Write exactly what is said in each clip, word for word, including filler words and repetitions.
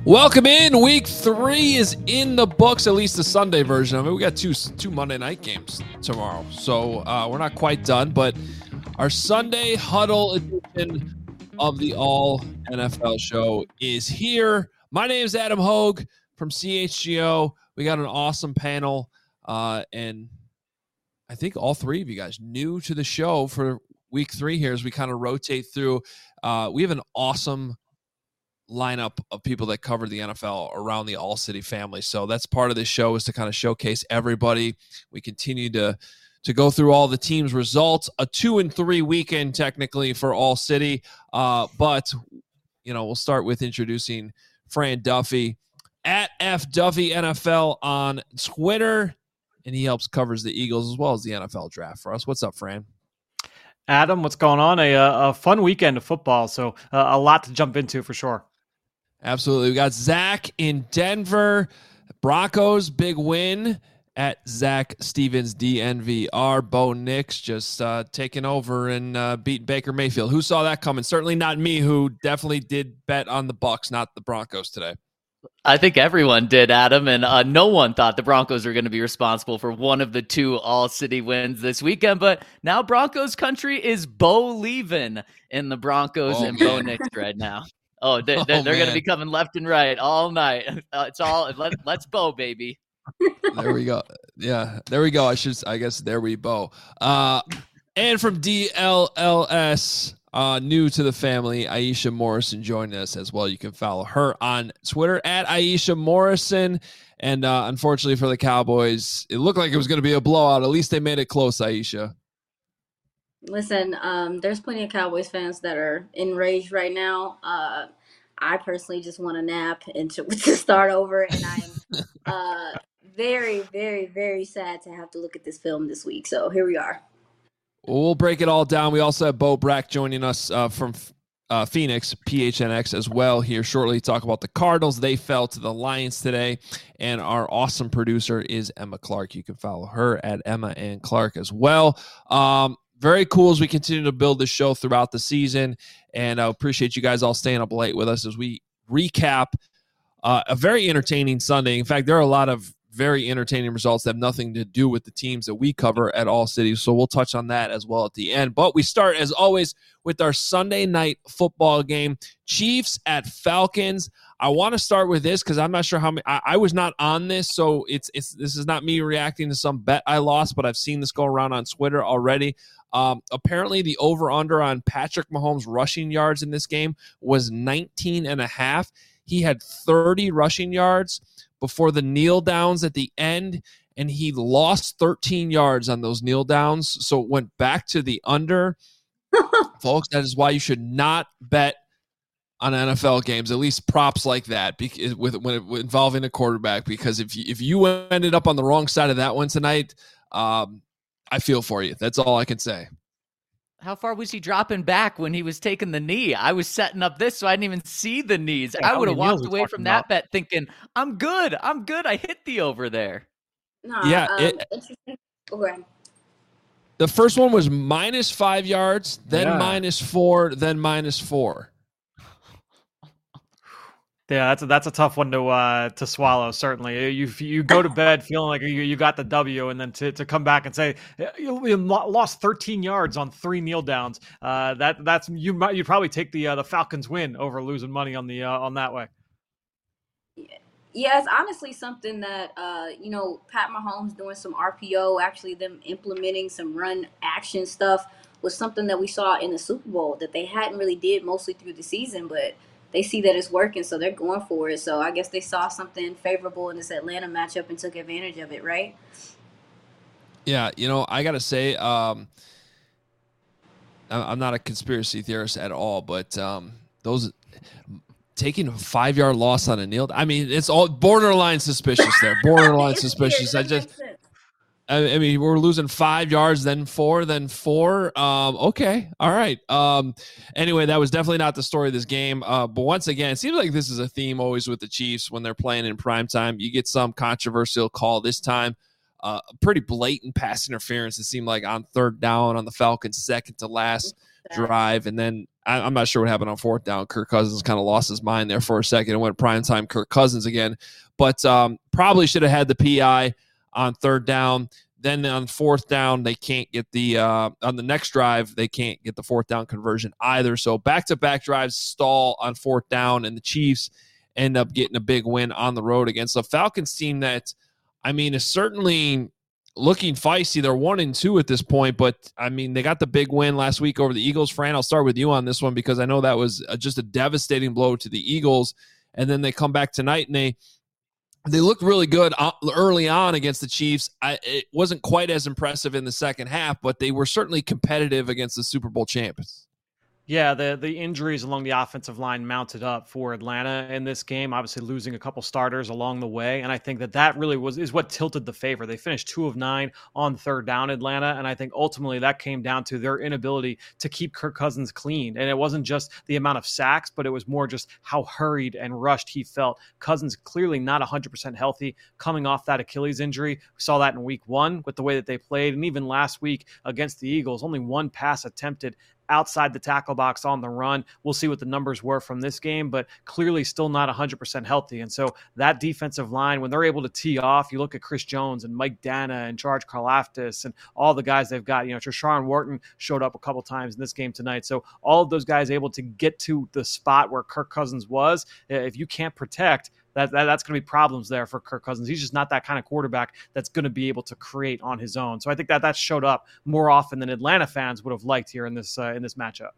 Welcome in. Week three is in the books, at least the Sunday version of it. We got two two Monday night games tomorrow, so uh, we're not quite done. But our Sunday huddle edition of the All N F L show is here. My name is Adam Hogue from C H G O. We got an awesome panel, uh, and I think all three of you guys new to the show for week three here as we kind of rotate through. Uh, we have an awesome lineup of people that cover the N F L around the All City family. So that's part of this show, is to kind of showcase everybody. We continue to to go through all the teams' results. A two and three weekend technically for All City, uh, but you know we'll start with introducing Fran Duffy at F Duffy N F L on Twitter, and he helps covers the Eagles as well as the N F L draft for us. What's up, Fran? Adam, what's going on? A, a fun weekend of football, so uh, a lot to jump into for sure. Absolutely. We got Zach in Denver. Broncos, big win at Zach Stevens, D N V R. Bo Nix just uh, taking over and uh, beat Baker Mayfield. Who saw that coming? Certainly not me, who definitely did bet on the Bucs, not the Broncos today. I think everyone did, Adam, and uh, no one thought the Broncos were going to be responsible for one of the two all-city wins this weekend. But now Broncos country is Bo-leaving in the Broncos oh, and man. Bo Nix right now. Oh, they, they're, oh, they're going to be coming left and right all night. Uh, it's all let, let's Bo, baby. There we go. Yeah, there we go. I should, I guess, there we Bo. Uh, and from D L L S. Uh, new to the family, Aisha Morrison joining us as well. You can follow her on Twitter at Aisha Morrison. And uh, unfortunately for the Cowboys, it looked like it was going to be a blowout. At least they made it close, Aisha. Listen, um, there's plenty of Cowboys fans that are enraged right now. Uh, I personally just want a nap and to, to start over. And I'm uh, very, very, very sad to have to look at this film this week. So here we are. We'll break it all down. We also have Bo Brack joining us uh, from uh, Phoenix, P H N X as well here shortly. Talk about the Cardinals. They fell to the Lions today. And our awesome producer is Emma Clark. You can follow her at Emma and Clark as well. Um, very cool as we continue to build the show throughout the season. And I appreciate you guys all staying up late with us as we recap uh, a very entertaining Sunday. In fact, there are a lot of very entertaining results that have nothing to do with the teams that we cover at All City. So we'll touch on that as well at the end. But we start, as always, with our Sunday night football game. Chiefs at Falcons. I want to start with this because I'm not sure how many. I, I was not on this, so it's it's this is not me reacting to some bet I lost, but I've seen this go around on Twitter already. Um, apparently, the over-under on Patrick Mahomes' rushing yards in this game was nineteen and a half. He had thirty rushing yards before the kneel downs at the end, and he lost thirteen yards on those kneel downs, so it went back to the under. Folks, that is why you should not bet on N F L games, at least props like that, because with when it, involving a quarterback, because if you, if you ended up on the wrong side of that one tonight, um, I feel for you. That's all I can say. How far was he dropping back when he was taking the knee? I was setting up this, so I didn't even see the knees. Yeah, I would have walked away from that about? bet thinking, I'm good. I'm good. I hit the over there. Nah, yeah. Um, it, interesting. Okay. The first one was minus five yards, then yeah. minus four, then minus four. Yeah, that's a, that's a tough one to uh, to swallow. Certainly, you you go to bed feeling like you, you got the W, and then to, to come back and say you, you lost thirteen yards on three kneel downs. Uh, that that's you might you'd probably take the uh, the Falcons win over losing money on the uh, on that way. Yeah, it's honestly something that uh, you know Pat Mahomes doing some R P O, actually them implementing some run action stuff was something that we saw in the Super Bowl that they hadn't really did mostly through the season, but they see that it's working, so they're going for it. So I guess they saw something favorable in this Atlanta matchup and took advantage of it, right? Yeah, you know, I got to say, um, I'm not a conspiracy theorist at all, but um, those taking a five-yard loss on a kneel, I mean, it's all borderline suspicious there, borderline suspicious. I just... I mean, we're losing five yards, then four, then four. Um, okay. All right. Um, anyway, that was definitely not the story of this game. Uh, but once again, it seems like this is a theme always with the Chiefs when they're playing in primetime. You get some controversial call this time. Uh, pretty blatant pass interference, it seemed like, on third down on the Falcons' second to last drive. And then I, I'm not sure what happened on fourth down. Kirk Cousins kind of lost his mind there for a second and went primetime Kirk Cousins again. But um, probably should have had the P I on third down. Then on fourth down, they can't get the uh, – on the next drive, they can't get the fourth down conversion either. So back-to-back drives stall on fourth down, and the Chiefs end up getting a big win on the road against the Falcons team that, I mean, is certainly looking feisty. They're one and two at this point, but, I mean, they got the big win last week over the Eagles. Fran, I'll start with you on this one because I know that was just a devastating blow to the Eagles, and then they come back tonight and they – They looked really good early on against the Chiefs. I, it wasn't quite as impressive in the second half, but they were certainly competitive against the Super Bowl champions. Yeah, the the injuries along the offensive line mounted up for Atlanta in this game, obviously losing a couple starters along the way. And I think that that really was is what tilted the favor. They finished two of nine on third down, Atlanta. And I think ultimately that came down to their inability to keep Kirk Cousins clean. And it wasn't just the amount of sacks, but it was more just how hurried and rushed he felt. Cousins clearly not one hundred percent healthy coming off that Achilles injury. We saw that in week one with the way that they played. And even last week against the Eagles, only one pass attempted outside the tackle box on the run. We'll see what the numbers were from this game, but clearly still not one hundred percent healthy. And so that defensive line, when they're able to tee off, you look at Chris Jones and Mike Dana and George Karlaftis and all the guys they've got. You know, Treshaun Wharton showed up a couple times in this game tonight. So all of those guys able to get to the spot where Kirk Cousins was. If you can't protect, That, that that's going to be problems there for Kirk Cousins. He's just not that kind of quarterback that's going to be able to create on his own. So I think that that showed up more often than Atlanta fans would have liked here in this uh, in this matchup.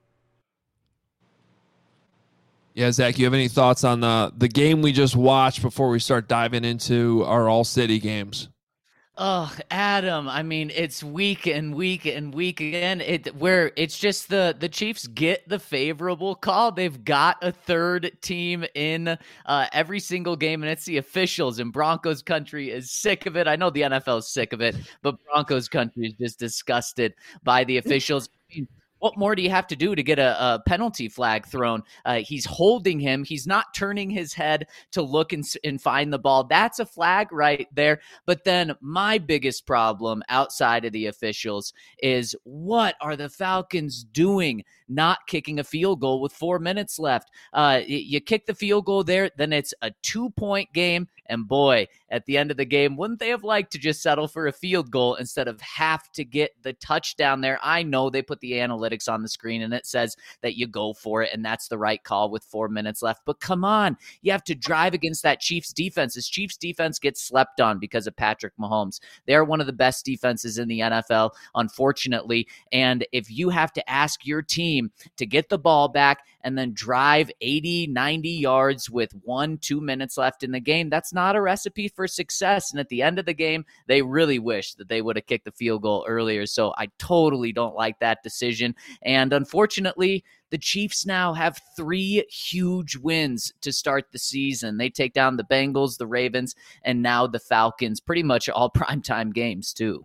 Yeah, Zach, you have any thoughts on the the game we just watched before we start diving into our all city games? Oh, Adam, I mean, it's week and week and week again. It where it's just the the Chiefs get the favorable call. They've got a third team in uh, every single game, and it's the officials. And Broncos country is sick of it. I know the N F L is sick of it, but Broncos country is just disgusted by the officials. I mean, what more do you have to do to get a, a penalty flag thrown? Uh, he's holding him. He's not turning his head to look and, and find the ball. That's a flag right there. But then my biggest problem outside of the officials is what are the Falcons doing not kicking a field goal with four minutes left? Uh, you kick the field goal there, then it's a two-point game. And boy, at the end of the game, wouldn't they have liked to just settle for a field goal instead of have to get the touchdown there? I know they put the analytics on the screen and it says that you go for it, and that's the right call with four minutes left. But come on, you have to drive against that Chiefs defense. This Chiefs defense gets slept on because of Patrick Mahomes. They're one of the best defenses in the N F L, unfortunately. And if you have to ask your team to get the ball back and then drive eighty, ninety yards with one, two minutes left in the game, that's not a recipe for success. And at the end of the game, they really wish that they would have kicked the field goal earlier. So I totally don't like that decision. And unfortunately, the Chiefs now have three huge wins to start the season. They take down the Bengals, the Ravens, and now the Falcons, pretty much all primetime games too.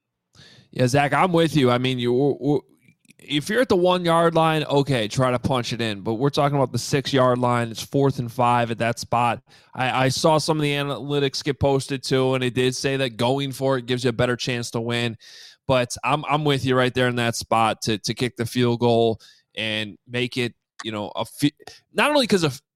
Yeah, Zach, I'm with you. I mean, you if you're at the one-yard line, okay, try to punch it in. But we're talking about the six-yard line. It's fourth and five at that spot. I, I saw some of the analytics get posted too, and it did say that going for it gives you a better chance to win. But I'm I'm with you right there in that spot to to kick the field goal and make it, you know, a fi- not only because of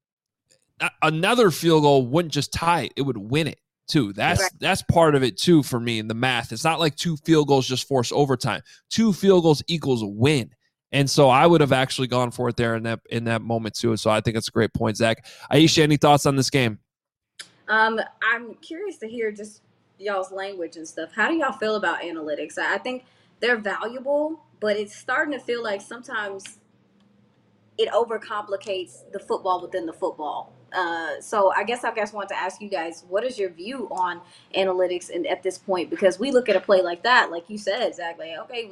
another field goal wouldn't just tie it, it would win it too. That's right. That's part of it too for me in the math. It's not like two field goals just force overtime. Two field goals equals a win. And so I would have actually gone for it there in that in that moment too. So I think it's a great point, Zach. Aisha, any thoughts on this game? Um, I'm curious to hear just y'all's language and stuff. How do y'all feel about analytics? I think they're valuable, but it's starting to feel like sometimes it overcomplicates the football within the football. Uh, so I guess I guess want to ask you guys, what is your view on analytics and at this point? Because we look at a play like that, like you said, Zach, like, okay,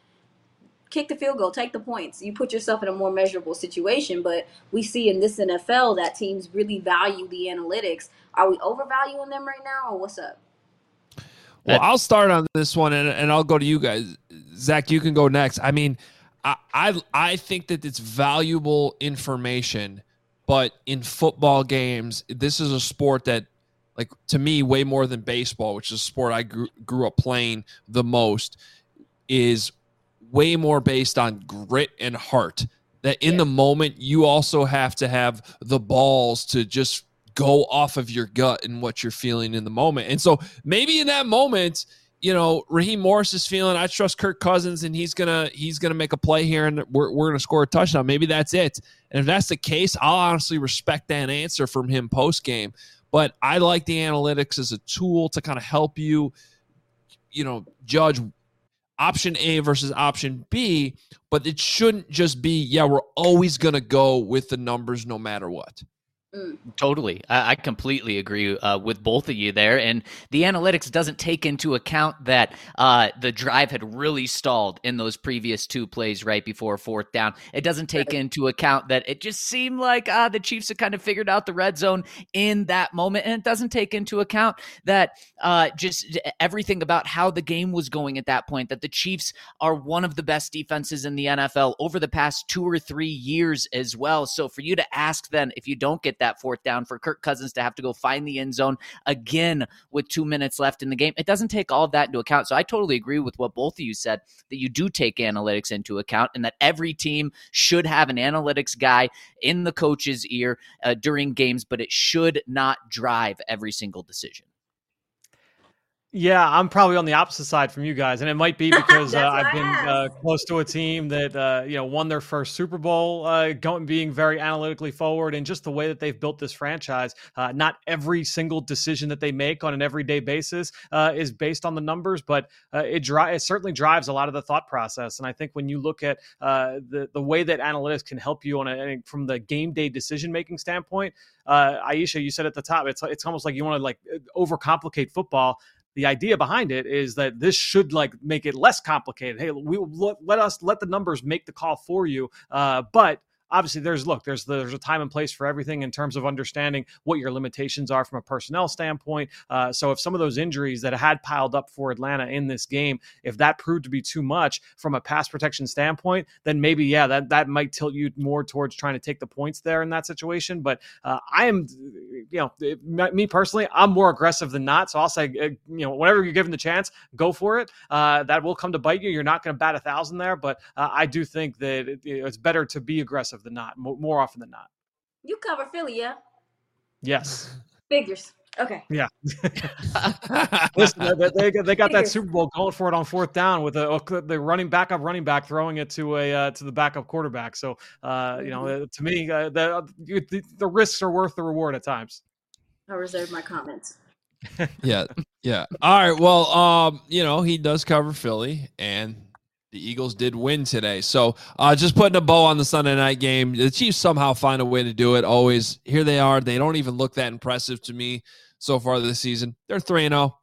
kick the field goal, take the points. You put yourself in a more measurable situation. But we see in this N F L that teams really value the analytics. Are we overvaluing them right now, or what's up? Well, I'll start on this one, and, and I'll go to you guys. Zach, you can go next. I mean, I, I I think that it's valuable information, but in football games, this is a sport that, like, to me, way more than baseball, which is a sport I grew, grew up playing the most, is way more based on grit and heart, that in Yeah. the moment you also have to have the balls to just go off of your gut and what you're feeling in the moment. And so maybe in that moment, you know, Raheem Morris is feeling, I trust Kirk Cousins and he's going to, he's going to make a play here and we're, we're going to score a touchdown. Maybe that's it. And if that's the case, I'll honestly respect that answer from him post game. But I like the analytics as a tool to kind of help you, you know, judge option A versus option B, but it shouldn't just be, yeah, we're always going to go with the numbers no matter what. Mm. Totally. I, I completely agree uh, with both of you there. And the analytics doesn't take into account that uh, the drive had really stalled in those previous two plays right before fourth down. It doesn't take into account that it just seemed like uh, the Chiefs had kind of figured out the red zone in that moment. And it doesn't take into account that uh, just everything about how the game was going at that point, that the Chiefs are one of the best defenses in the N F L over the past two or three years as well. So for you to ask then, if you don't get that fourth down, for Kirk Cousins to have to go find the end zone again with two minutes left in the game, it doesn't take all of that into account. So I totally agree with what both of you said, that you do take analytics into account and that every team should have an analytics guy in the coach's ear uh, during games, but it should not drive every single decision. Yeah, I'm probably on the opposite side from you guys, and it might be because uh, That's what I've been I uh, asked. close to a team that uh, you know won their first Super Bowl, uh, going being very analytically forward, and just the way that they've built this franchise. Uh, not every single decision that they make on an everyday basis uh, is based on the numbers, but uh, it, dri- it certainly drives a lot of the thought process. And I think when you look at uh, the the way that analytics can help you on a from the game day decision making standpoint, uh, Aisha, you said at the top, it's it's almost like you want to like overcomplicate football. The idea behind it is that this should like make it less complicated. Hey, we let, let us let the numbers make the call for you. Uh, but obviously there's look, there's there's a time and place for everything in terms of understanding what your limitations are from a personnel standpoint. Uh, so if some of those injuries that had piled up for Atlanta in this game, if that proved to be too much from a pass protection standpoint, then maybe, yeah, that, that might tilt you more towards trying to take the points there in that situation. But uh, I am, you know, it, me personally, I'm more aggressive than not. So I'll say, uh, you know, whenever you're given the chance, go for it. Uh, that will come to bite you. You're not going to bat a thousand there, but uh, I do think that it, it's better to be aggressive than not, more often than not. You cover Philly, yeah? Yes. Figures. Okay. Yeah. Listen, they, they, they got that Super Bowl going for it on fourth down with the the running back up running back throwing it to a uh, to the backup quarterback. So uh, you know, to me, uh, the, the the risks are worth the reward at times. I reserve my comments. yeah, yeah. All right. Well, um, you know, he does cover Philly, and the Eagles did win today. So uh, just putting a bow on the Sunday night game. The Chiefs somehow find a way to do it. Always. Here they are. They don't even look that impressive to me so far this season. They're three and oh.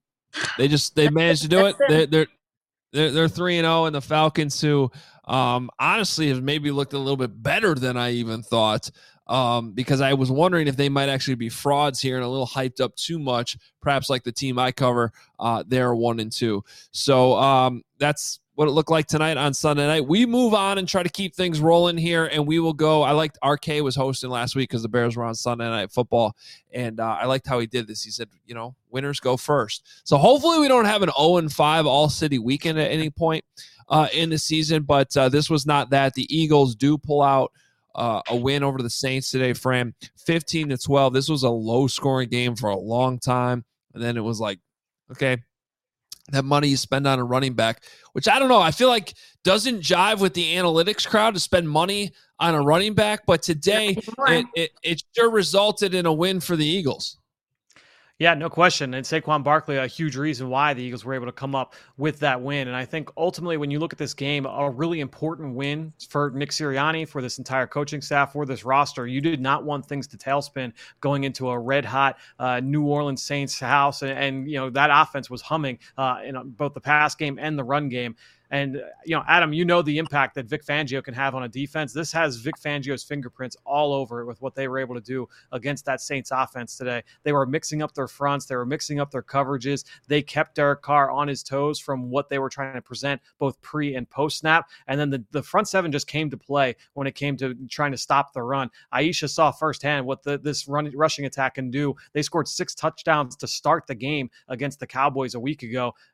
They just they managed to do it. They're they're they're, they're three and oh, and the Falcons, who um, honestly have maybe looked a little bit better than I even thought. Um, because I was wondering if they might actually be frauds here and a little hyped up too much, perhaps like the team I cover. Uh, they're one and two. So um, that's what it looked like tonight on Sunday night. We move on and try to keep things rolling here, and we will go. I liked R K was hosting last week because the Bears were on Sunday Night Football, and uh, I liked how he did this. He said, you know, winners go first. So hopefully we don't have an oh and five all-city weekend at any point uh, in the season, but uh, this was not that. The Eagles do pull out uh, a win over the Saints today, Fran, fifteen to twelve. This was a low-scoring game for a long time, and then it was like, okay, that money you spend on a running back, which I don't know, I feel like doesn't jive with the analytics crowd to spend money on a running back. But today it, it, it sure resulted in a win for the Eagles. Yeah, no question. And Saquon Barkley, a huge reason why the Eagles were able to come up with that win. And I think ultimately when you look at this game, a really important win for Nick Sirianni, for this entire coaching staff, for this roster. You did not want things to tailspin going into a red hot uh, New Orleans Saints house. And, and, you know, that offense was humming uh, in both the pass game and the run game. And, you know, Adam, you know the impact that Vic Fangio can have on a defense. This has Vic Fangio's fingerprints all over it with what they were able to do against that Saints offense today. They were mixing up their fronts. They were mixing up their coverages. They kept Derek Carr on his toes from what they were trying to present both pre and post snap. And then the, the front seven just came to play when it came to trying to stop the run. Aisha saw firsthand what the, this run, rushing attack can do. They scored six touchdowns to start the game against the Cowboys a week ago.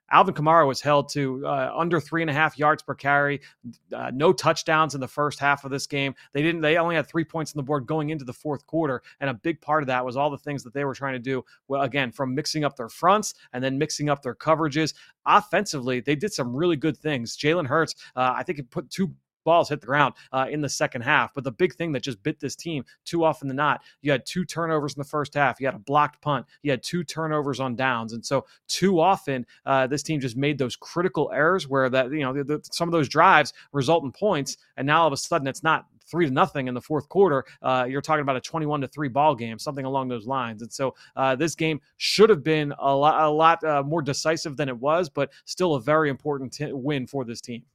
Alvin Kamara was held to uh, under three and a half yards per carry, uh, no touchdowns in the first half of this game. They didn't. They only had three points on the board going into the fourth quarter, and a big part of that was all the things that they were trying to do. Well, again, from mixing up their fronts and then mixing up their coverages. Offensively, they did some really good things. Jalen Hurts, uh, I think, he put two balls hit the ground uh, in the second half. But the big thing that just bit this team too often than not, you had two turnovers in the first half. You had a blocked punt. You had two turnovers on downs. And so too often, uh, this team just made those critical errors where that, you know, the, the, some of those drives result in points. And now all of a sudden it's not three to nothing in the fourth quarter. Uh, you're talking about a twenty-one to three ball game, something along those lines. And so uh, this game should have been a lot, a lot uh, more decisive than it was, but still a very important t- win for this team.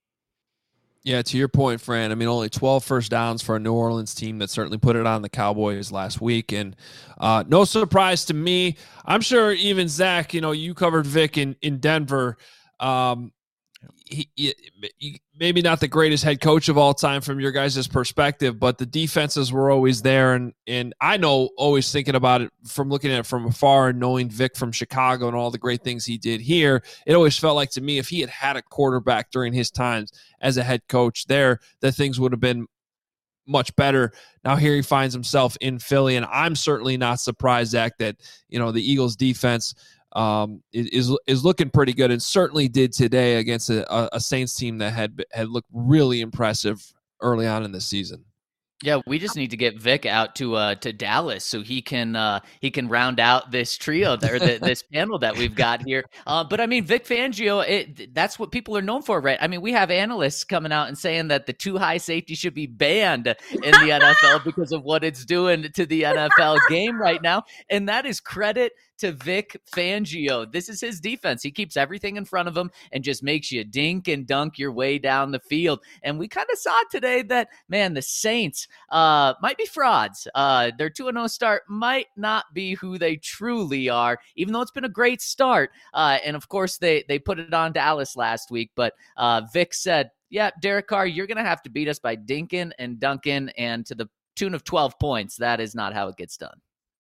Yeah, to your point, Fran, I mean, only twelve first downs for a New Orleans team that certainly put it on the Cowboys last week. And uh, no surprise to me. I'm sure even Zach, you know, you covered Vic in, in Denver. Um, he, he, maybe not the greatest head coach of all time from your guys' perspective, but the defenses were always there. And, and I know, always thinking about it from looking at it from afar and knowing Vic from Chicago and all the great things he did here, it always felt like to me, if he had had a quarterback during his times as a head coach there, that things would have been much better. Now here he finds himself in Philly, and I'm certainly not surprised, Zach, that, you know, the Eagles defense um, is is looking pretty good, and certainly did today against a, a Saints team that had had looked really impressive early on in the season. Yeah, we just need to get Vic out to uh, to Dallas so he can uh, he can round out this trio there, the, this panel that we've got here. Uh, but I mean, Vic Fangio, it, that's what people are known for, right? I mean, we have analysts coming out and saying that the too high safety should be banned in the N F L because of what it's doing to the N F L game right now, and that is credit to Vic Fangio. This is his defense. He keeps everything in front of him and just makes you dink and dunk your way down the field. And we kind of saw today that, man, the Saints uh, might be frauds. Uh, their two and oh start might not be who they truly are, even though it's been a great start. Uh, and, of course, they, they put it on Dallas last week. But uh, Vic said, yeah, Derek Carr, you're going to have to beat us by dinking and dunking and to the tune of twelve points. That is not how it gets done.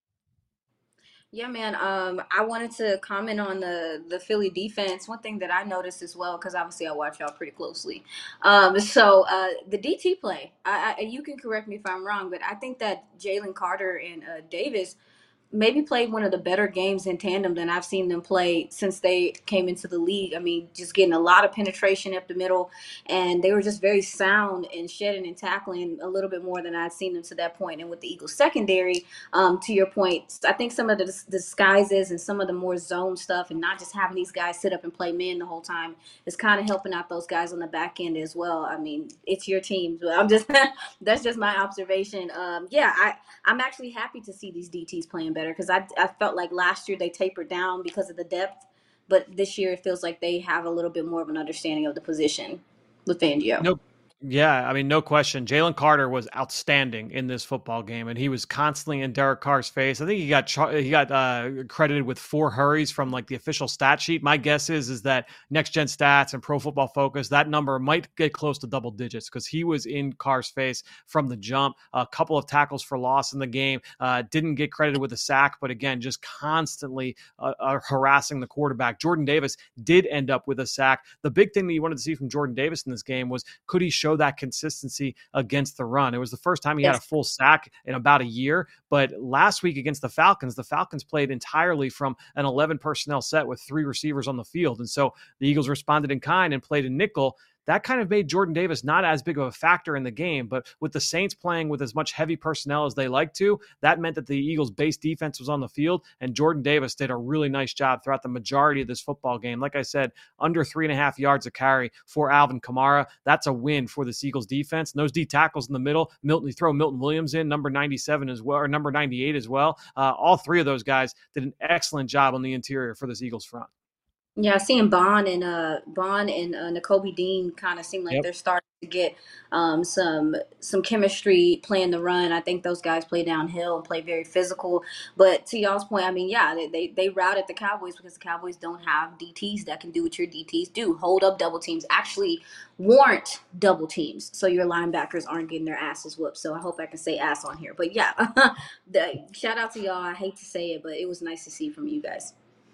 Yeah, man. Um, I wanted to comment on the the Philly defense. One thing that I noticed as well, because obviously I watch y'all pretty closely. Um, so uh, the D T play, I, I, you can correct me if I'm wrong, but I think that Jalen Carter and uh, Davis maybe played one of the better games in tandem than I've seen them play since they came into the league. I mean, just getting a lot of penetration up the middle, and they were just very sound in shedding and tackling a little bit more than I'd seen them to that point. And with the Eagles secondary, um, to your point, I think some of the dis- disguises and some of the more zone stuff and not just having these guys sit up and play men the whole time is kind of helping out those guys on the back end as well. I mean, it's your team, but I'm just that's just my observation. Um, yeah, I, I'm actually happy to see these D Ts playing better, because I, I felt like last year they tapered down because of the depth, but this year it feels like they have a little bit more of an understanding of the position with Fangio. Nope. Yeah, I mean, no question. Jalen Carter was outstanding in this football game, and he was constantly in Derek Carr's face. I think he got he got uh, credited with four hurries from like the official stat sheet. My guess is is that Next Gen Stats and Pro Football Focus, that number might get close to double digits, because he was in Carr's face from the jump. A couple of tackles for loss in the game. Uh, didn't get credited with a sack, but again, just constantly uh, uh, harassing the quarterback. Jordan Davis did end up with a sack. The big thing that you wanted to see from Jordan Davis in this game was, could he show that consistency against the run? It was the first time he yes. had a full sack in about a year, but last week against the Falcons, the Falcons played entirely from an eleven personnel set with three receivers on the field. And so the Eagles responded in kind and played a nickel. That kind of made Jordan Davis not as big of a factor in the game, but with the Saints playing with as much heavy personnel as they like to, that meant that the Eagles' base defense was on the field, and Jordan Davis did a really nice job throughout the majority of this football game. Like I said, under three and a half yards a carry for Alvin Kamara. That's a win for this Eagles defense. And those D tackles in the middle, Milton, you throw Milton Williams in, number ninety-seven as well, or number ninety-eight as well. Uh, all three of those guys did an excellent job on the interior for this Eagles front. Yeah, seeing Bond and uh Bond and uh, Nakobe Dean kind of seem like yep. they're starting to get um, some some chemistry playing the run. I think those guys play downhill and play very physical. But to y'all's point, I mean, yeah, they, they they routed the Cowboys because the Cowboys don't have D Ts that can do what your D Ts do: hold up double teams, actually warrant double teams, so your linebackers aren't getting their asses whooped. So I hope I can say ass on here. But yeah, the, shout out to y'all. I hate to say it, but it was nice to see from you guys.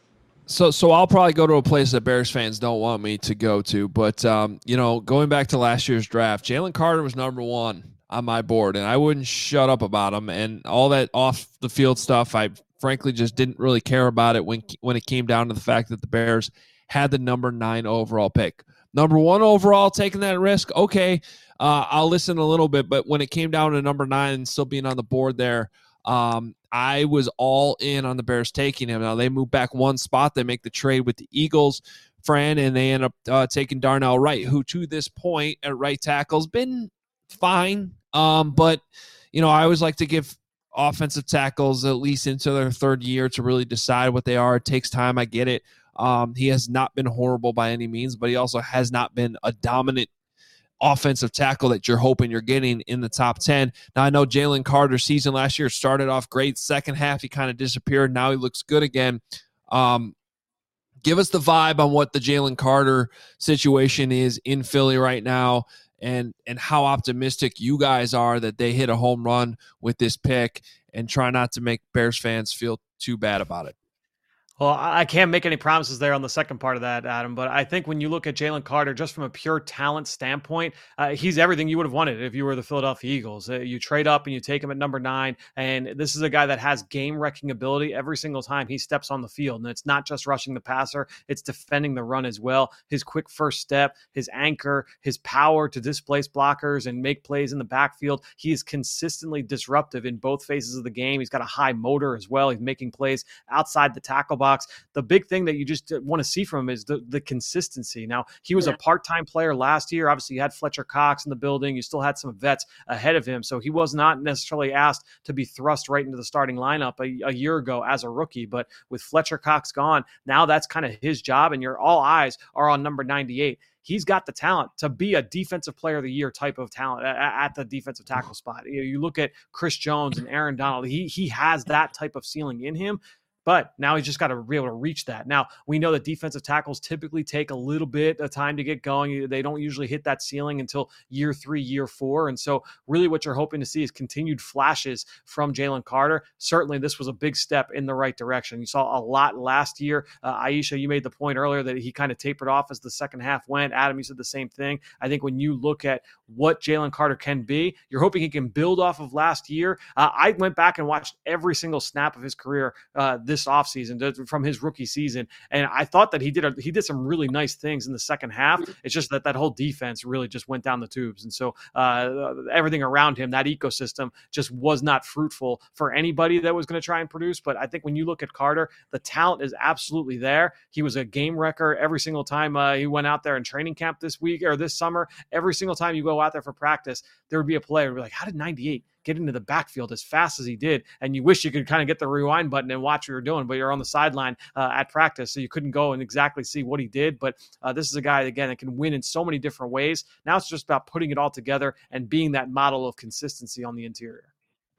So, so I'll probably go to a place that Bears fans don't want me to go to. But, um, you know, going back to last year's draft, Jalen Carter was number one on my board, and I wouldn't shut up about him. And all that off the field stuff, I frankly just didn't really care about it when when it came down to the fact that the Bears had the number nine overall pick. Number one overall, taking that risk, okay, uh, I'll listen a little bit. But when it came down to number nine and still being on the board there, um, I was all in on the Bears taking him. Now, they move back one spot. They make the trade with the Eagles, Fran, and they end up uh, taking Darnell Wright, who to this point at right tackle has been fine. Um, but, you know, I always like to give offensive tackles at least into their third year to really decide what they are. It takes time. I get it. Um, he has not been horrible by any means, but he also has not been a dominant offensive tackle that you're hoping you're getting in the top ten. Now, I know Jalen Carter's season last year started off great. Second half, he kind of disappeared. Now he looks good again. Um, give us the vibe on what the Jalen Carter situation is in Philly right now, and and how optimistic you guys are that they hit a home run with this pick, and try not to make Bears fans feel too bad about it. Well, I can't make any promises there on the second part of that, Adam, but I think when you look at Jalen Carter, just from a pure talent standpoint, uh, he's everything you would have wanted if you were the Philadelphia Eagles. Uh, you trade up and you take him at number nine, and this is a guy that has game-wrecking ability every single time he steps on the field, and it's not just rushing the passer, it's defending the run as well. His quick first step, his anchor, his power to displace blockers and make plays in the backfield. He is consistently disruptive in both phases of the game. He's got a high motor as well. He's making plays outside the tackle box. The big thing that you just want to see from him is the, the consistency. Now, he was a part-time player last year. Obviously, you had Fletcher Cox in the building. You still had some vets ahead of him. So he was not necessarily asked to be thrust right into the starting lineup a, a year ago as a rookie. But with Fletcher Cox gone, now that's kind of his job, and your all eyes are on number ninety-eight. He's got the talent to be a defensive player of the year type of talent at the defensive tackle spot. You know, you look at Chris Jones and Aaron Donald. He, he has that type of ceiling in him. But now he's just got to be able to reach that. Now, we know that defensive tackles typically take a little bit of time to get going. They don't usually hit that ceiling until year three, year four. And so really what you're hoping to see is continued flashes from Jalen Carter. Certainly this was a big step in the right direction. You saw a lot last year. Uh, Aisha, you made the point earlier that he kind of tapered off as the second half went. Adam, you said the same thing. I think when you look at what Jalen Carter can be, you're hoping he can build off of last year. Uh, I went back and watched every single snap of his career uh, this offseason from his rookie season, and I thought that he did a, he did some really nice things in the second half. It's just that that whole defense really just went down the tubes, and so uh, everything around him, that ecosystem, just was not fruitful for anybody that was going to try and produce. But I think when you look at Carter, the talent is absolutely there. He was a game wrecker every single time uh, he went out there in training camp this week or this summer. Every single time you go out there for practice, there would be a player who'd be like, how did ninety-eight get into the backfield as fast as he did? And you wish you could kind of get the rewind button and watch what you're doing, but you're on the sideline uh, at practice, so you couldn't go and exactly see what he did. But uh, this is a guy, again, that can win in so many different ways. Now it's just about putting it all together and being that model of consistency on the interior.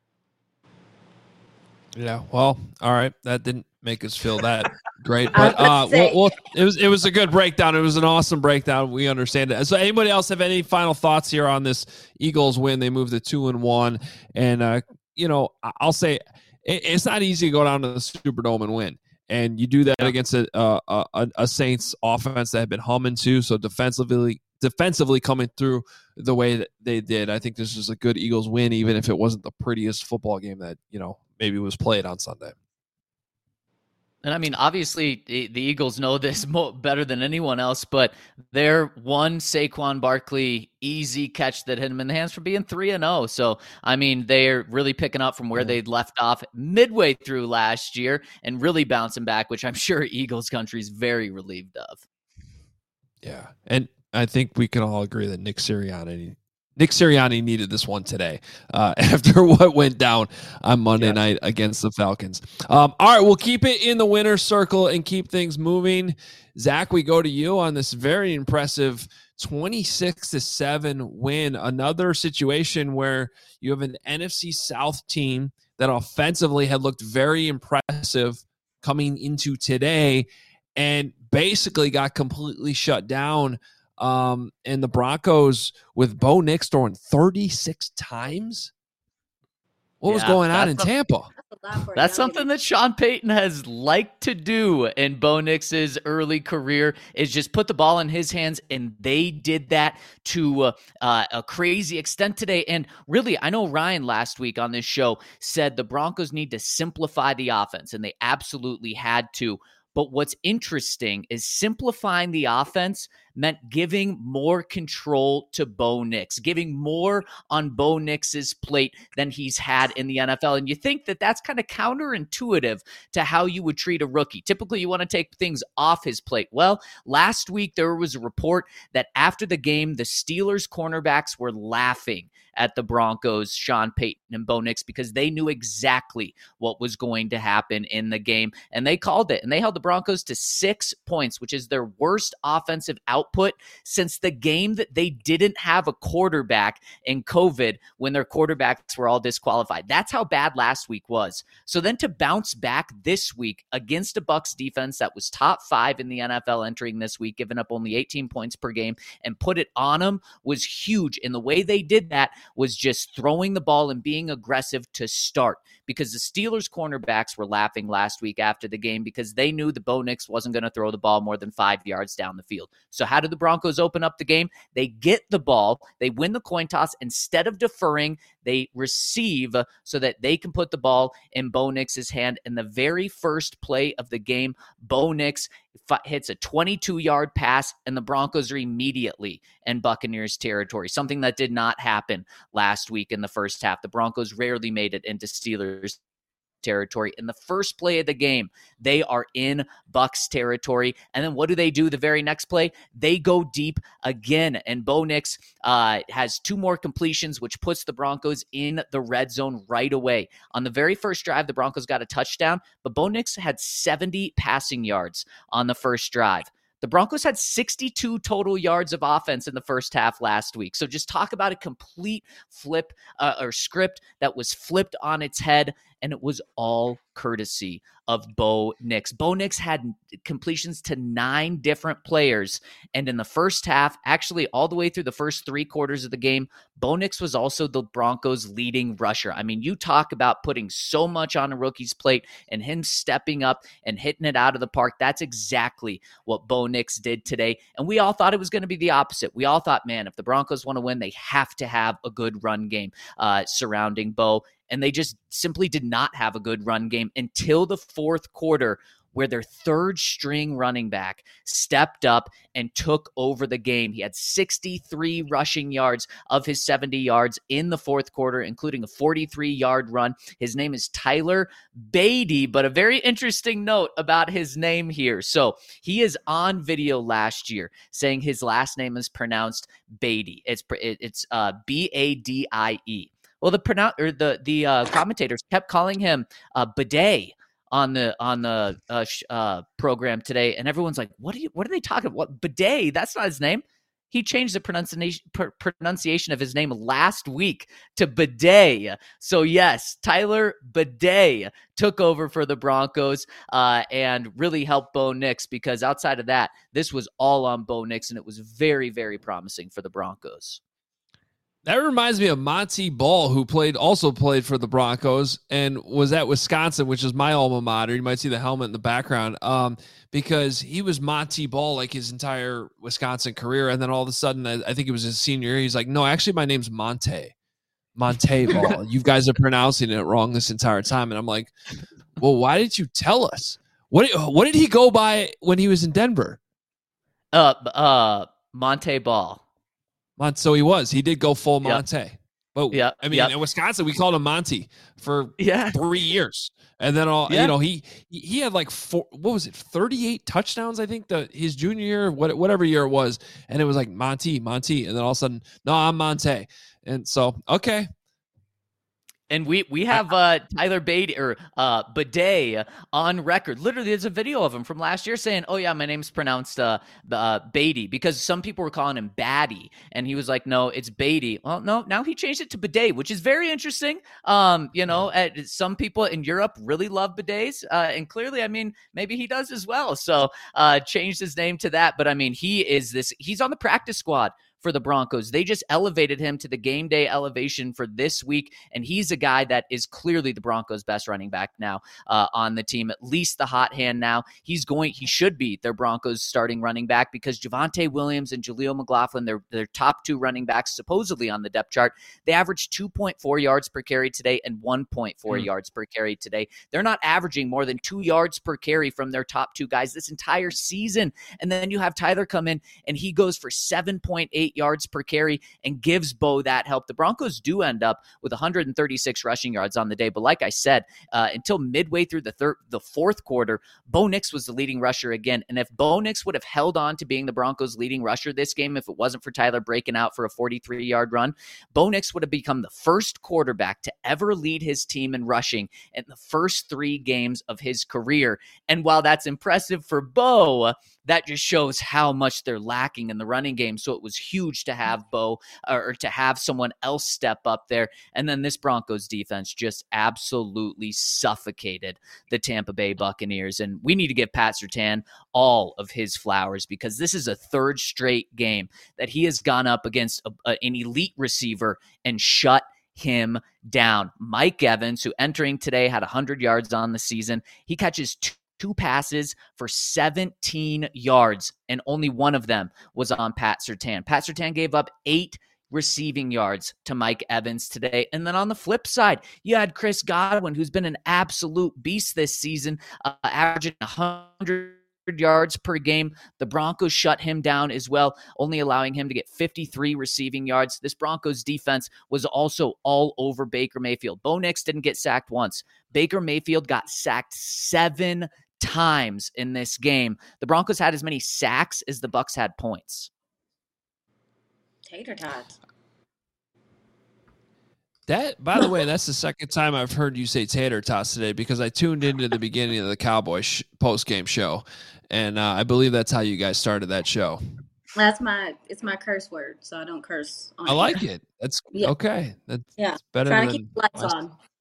Yeah, well, all right. That didn't make us feel that great, but uh, well, well, it was it was a good breakdown. It was an awesome breakdown. We understand it. So, anybody else have any final thoughts here on this Eagles win? They moved to two and one, and uh, you know, I'll say it, it's not easy to go down to the Superdome and win, and you do that against a a, a Saints offense that had been humming too. So defensively. defensively coming through the way that they did. I think this is a good Eagles win, even if it wasn't the prettiest football game that, you know, maybe was played on Sunday. And I mean, obviously the, the Eagles know this mo- better than anyone else, but their one Saquon Barkley easy catch that hit him in the hands for being three and oh. So, I mean, they're really picking up from where they'd left off midway through last year and really bouncing back, which I'm sure Eagles country is very relieved of. Yeah. And I think we can all agree that Nick Sirianni, Nick Sirianni needed this one today uh, after what went down on Monday yeah. night against the Falcons. Um, all right, we'll keep it in the winner's circle and keep things moving. Zach, we go to you on this very impressive twenty-six to seven win. Another situation where you have an N F C South team that offensively had looked very impressive coming into today and basically got completely shut down. Um, and the Broncos with Bo Nix throwing thirty-six times. What was Yeah, going on in that's a- Tampa? That's a lot for a That's young something guy. that Sean Payton has liked to do in Bo Nix's early career, is just put the ball in his hands, and they did that to uh, uh, a crazy extent today. And really, I know Ryan last week on this show said the Broncos need to simplify the offense, and they absolutely had to. But what's interesting is simplifying the offense meant giving more control to Bo Nix, giving more on Bo Nix's plate than he's had in the N F L. And you think that that's kind of counterintuitive to how you would treat a rookie. Typically, you want to take things off his plate. Well, last week there was a report that after the game, the Steelers cornerbacks were laughing at the Broncos, Sean Payton and Bo Nix, because they knew exactly what was going to happen in the game. And they called it. And they held the Broncos to six points, which is their worst offensive output since the game that they didn't have a quarterback in COVID when their quarterbacks were all disqualified. That's how bad last week was. So then to bounce back this week against a Bucs defense that was top five in the N F L entering this week, giving up only eighteen points per game, and put it on them was huge. And the way they did that was just throwing the ball and being aggressive to start, because the Steelers cornerbacks were laughing last week after the game because they knew the Bo Nix wasn't going to throw the ball more than five yards down the field. So how did the Broncos open up the game? They get the ball, they win the coin toss. Instead of deferring, they receive so that they can put the ball in Bo Nix's hand. And the very first play of the game, Bo Nix hits a twenty-two-yard pass, and the Broncos are immediately in Buccaneers territory, something that did not happen last week in the first half. The Broncos rarely made it into Steelers territory. In the first play of the game, they are in Bucs territory. And then what do they do the very next play? They go deep again. And Bo Nix uh, has two more completions, which puts the Broncos in the red zone right away. On the very first drive, the Broncos got a touchdown, but Bo Nix had seventy passing yards on the first drive. The Broncos had sixty-two total yards of offense in the first half last week. So just talk about a complete flip uh, or script that was flipped on its head, and it was all courtesy of Bo Nix. Bo Nix had completions to nine different players, and in the first half, actually all the way through the first three quarters of the game, Bo Nix was also the Broncos' leading rusher. I mean, you talk about putting so much on a rookie's plate and him stepping up and hitting it out of the park. That's exactly what Bo Nix did today, and we all thought it was going to be the opposite. We all thought, man, if the Broncos want to win, they have to have a good run game uh, surrounding Bo. And they just simply did not have a good run game until the fourth quarter, where their third string running back stepped up and took over the game. He had sixty-three rushing yards of his seventy yards in the fourth quarter, including a forty-three-yard run. His name is Tyler Badie, but a very interesting note about his name here. So he is on video last year saying his last name is pronounced Badie. It's it's uh, B A D I E. Well, the pronoun- or the the uh, commentators kept calling him uh, Bidet on the on the uh, sh- uh, program today, and everyone's like, "What are you? What are they talking about? What Bidet? That's not his name." He changed the pronunciation pr- pronunciation of his name last week to Bidet. So yes, Tyler Bidet took over for the Broncos uh, and really helped Bo Nix, because outside of that, this was all on Bo Nix, and it was very, very promising for the Broncos. That reminds me of Monty Ball, who played also played for the Broncos and was at Wisconsin, which is my alma mater. You might see the helmet in the background, um, because he was Monty Ball like his entire Wisconsin career. And then all of a sudden, I, I think it was his senior year, he's like, no, actually, my name's Monte. Monte Ball. You guys are pronouncing it wrong this entire time. And I'm like, well, why didn't you tell us? What, what did he go by when he was in Denver? Uh, uh, Monte Ball. Mon- so he was. He did go full Monte. Yep. But yeah, I mean, yep. in Wisconsin, we called him Monty for yeah. three years, and then all yeah. you know, he he had like four. What was it? thirty-eight touchdowns, I think, the his junior year, what whatever year it was, and it was like Monty, Monty, and then all of a sudden, no, I'm Monte, and so okay. And we we have uh, Tyler Badie or uh, Bidet on record. Literally, there's a video of him from last year saying, "Oh yeah, my name's pronounced uh, uh, Badie," because some people were calling him Batty, and he was like, "No, it's Badie." Well, no, now he changed it to Bidet, which is very interesting. Um, you know, at, some people in Europe really love bidets, uh, and clearly, I mean, maybe he does as well. So, uh, changed his name to that. But I mean, he is this. He's on the practice squad for the Broncos. They just elevated him to the game day elevation for this week, and he's a guy that is clearly the Broncos' best running back now uh, on the team, at least the hot hand now. He's going, he should be their Broncos starting running back because Javonte Williams and Jaleel McLaughlin, they're their top two running backs supposedly on the depth chart. They averaged two point four yards per carry today and one point four mm. yards per carry today. They're not averaging more than two yards per carry from their top two guys this entire season. And then you have Tyler come in and he goes for seven point eight yards per carry and gives Bo that help. The Broncos do end up with one hundred thirty-six rushing yards on the day. But like I said, uh, until midway through the third, the fourth quarter, Bo Nix was the leading rusher again. And if Bo Nix would have held on to being the Broncos' leading rusher this game, if it wasn't for Tyler breaking out for a forty-three-yard run, Bo Nix would have become the first quarterback to ever lead his team in rushing in the first three games of his career. And while that's impressive for Bo, that just shows how much they're lacking in the running game. So it was huge to have Bo or to have someone else step up there. And then this Broncos defense just absolutely suffocated the Tampa Bay Buccaneers. And we need to give Pat Surtain all of his flowers because this is a third straight game that he has gone up against a, a, an elite receiver and shut him down. Mike Evans, who entering today had one hundred yards on the season, he catches two Two passes for seventeen yards, and only one of them was on Pat Surtain. Pat Surtain gave up eight receiving yards to Mike Evans today. And then on the flip side, you had Chris Godwin, who's been an absolute beast this season, uh, averaging one hundred yards per game. The Broncos shut him down as well, only allowing him to get fifty-three receiving yards. This Broncos defense was also all over Baker Mayfield. Bo Nix didn't get sacked once. Baker Mayfield got sacked seven times in this game. The Broncos had as many sacks as the Bucs had points. Tater tots. That, by the way, that's the second time I've heard you say tater tots today because I tuned into the beginning of the Cowboys sh- post-game show, and uh, I believe that's how you guys started that show. That's my it's my curse word, so I don't curse on I like here. it. That's Yeah. okay. That's, Yeah. that's better Trying than to keep the lights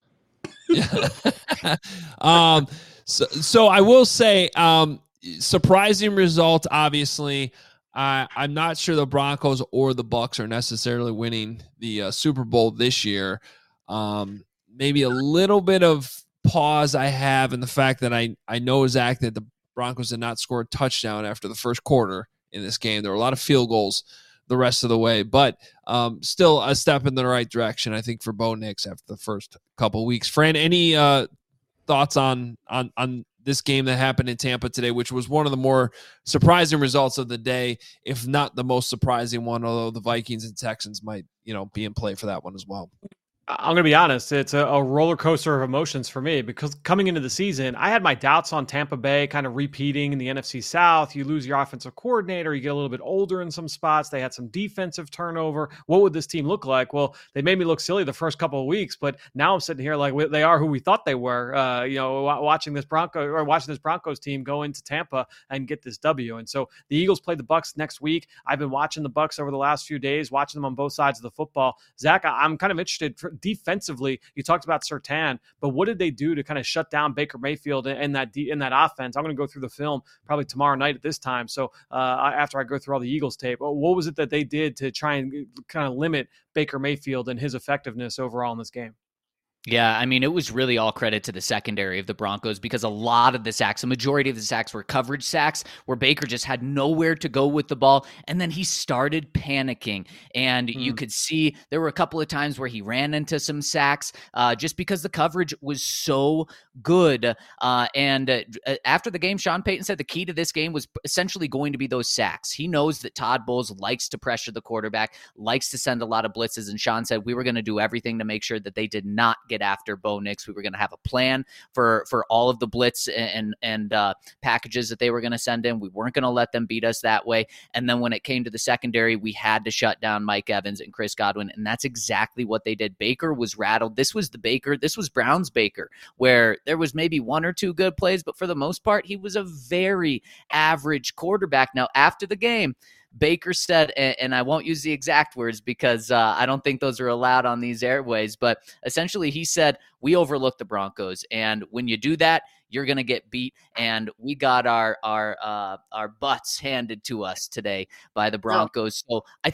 my- on. Yeah. um. So, so I will say, um, surprising result. Obviously, I I'm not sure the Broncos or the Bucs are necessarily winning the uh, Super Bowl this year. Um, maybe a little bit of pause I have in the fact that I I know, Zach, that the Broncos did not score a touchdown after the first quarter in this game. There were a lot of field goals the rest of the way, but um, still a step in the right direction, I think, for Bo Nix after the first couple weeks. Fran, any uh, thoughts on on on this game that happened in Tampa today, which was one of the more surprising results of the day, if not the most surprising one, although the Vikings and Texans might, you know, be in play for that one as well? I'm going to be honest. It's a, a roller coaster of emotions for me because coming into the season, I had my doubts on Tampa Bay kind of repeating in the N F C South. You lose your offensive coordinator. You get a little bit older in some spots. They had some defensive turnover. What would this team look like? Well, they made me look silly the first couple of weeks, but now I'm sitting here like they are who we thought they were, uh, you know, watching this Bronco or watching this Broncos team go into Tampa and get this W. And so the Eagles play the Bucs next week. I've been watching the Bucs over the last few days, watching them on both sides of the football. Zach, I'm kind of interested for defensively. You talked about Surtain, but what did they do to kind of shut down Baker Mayfield in that in that offense? I'm going to go through the film probably tomorrow night at this time. So uh, after I go through all the Eagles tape, what was it that they did to try and kind of limit Baker Mayfield and his effectiveness overall in this game? Yeah, I mean, it was really all credit to the secondary of the Broncos because a lot of the sacks, a majority of the sacks were coverage sacks where Baker just had nowhere to go with the ball. And then he started panicking. And mm. you could see there were a couple of times where he ran into some sacks uh, just because the coverage was so good. Uh, and uh, after the game, Sean Payton said the key to this game was essentially going to be those sacks. He knows that Todd Bowles likes to pressure the quarterback, likes to send a lot of blitzes. And Sean said we were going to do everything to make sure that they did not get after Bo Nix. We were going to have a plan for for all of the blitz and and uh, packages that they were going to send in. We weren't going to let them beat us that way. And then when it came to the secondary, we had to shut down Mike Evans and Chris Godwin, and that's exactly what they did. Baker was rattled. This was the Baker. This was Brown's Baker, where there was maybe one or two good plays, but for the most part, he was a very average quarterback. Now, after the game, Baker said, and I won't use the exact words because uh, I don't think those are allowed on these airways, but essentially he said, we overlooked the Broncos. And when you do that, you're going to get beat. And we got our our uh, our butts handed to us today by the Broncos. So I think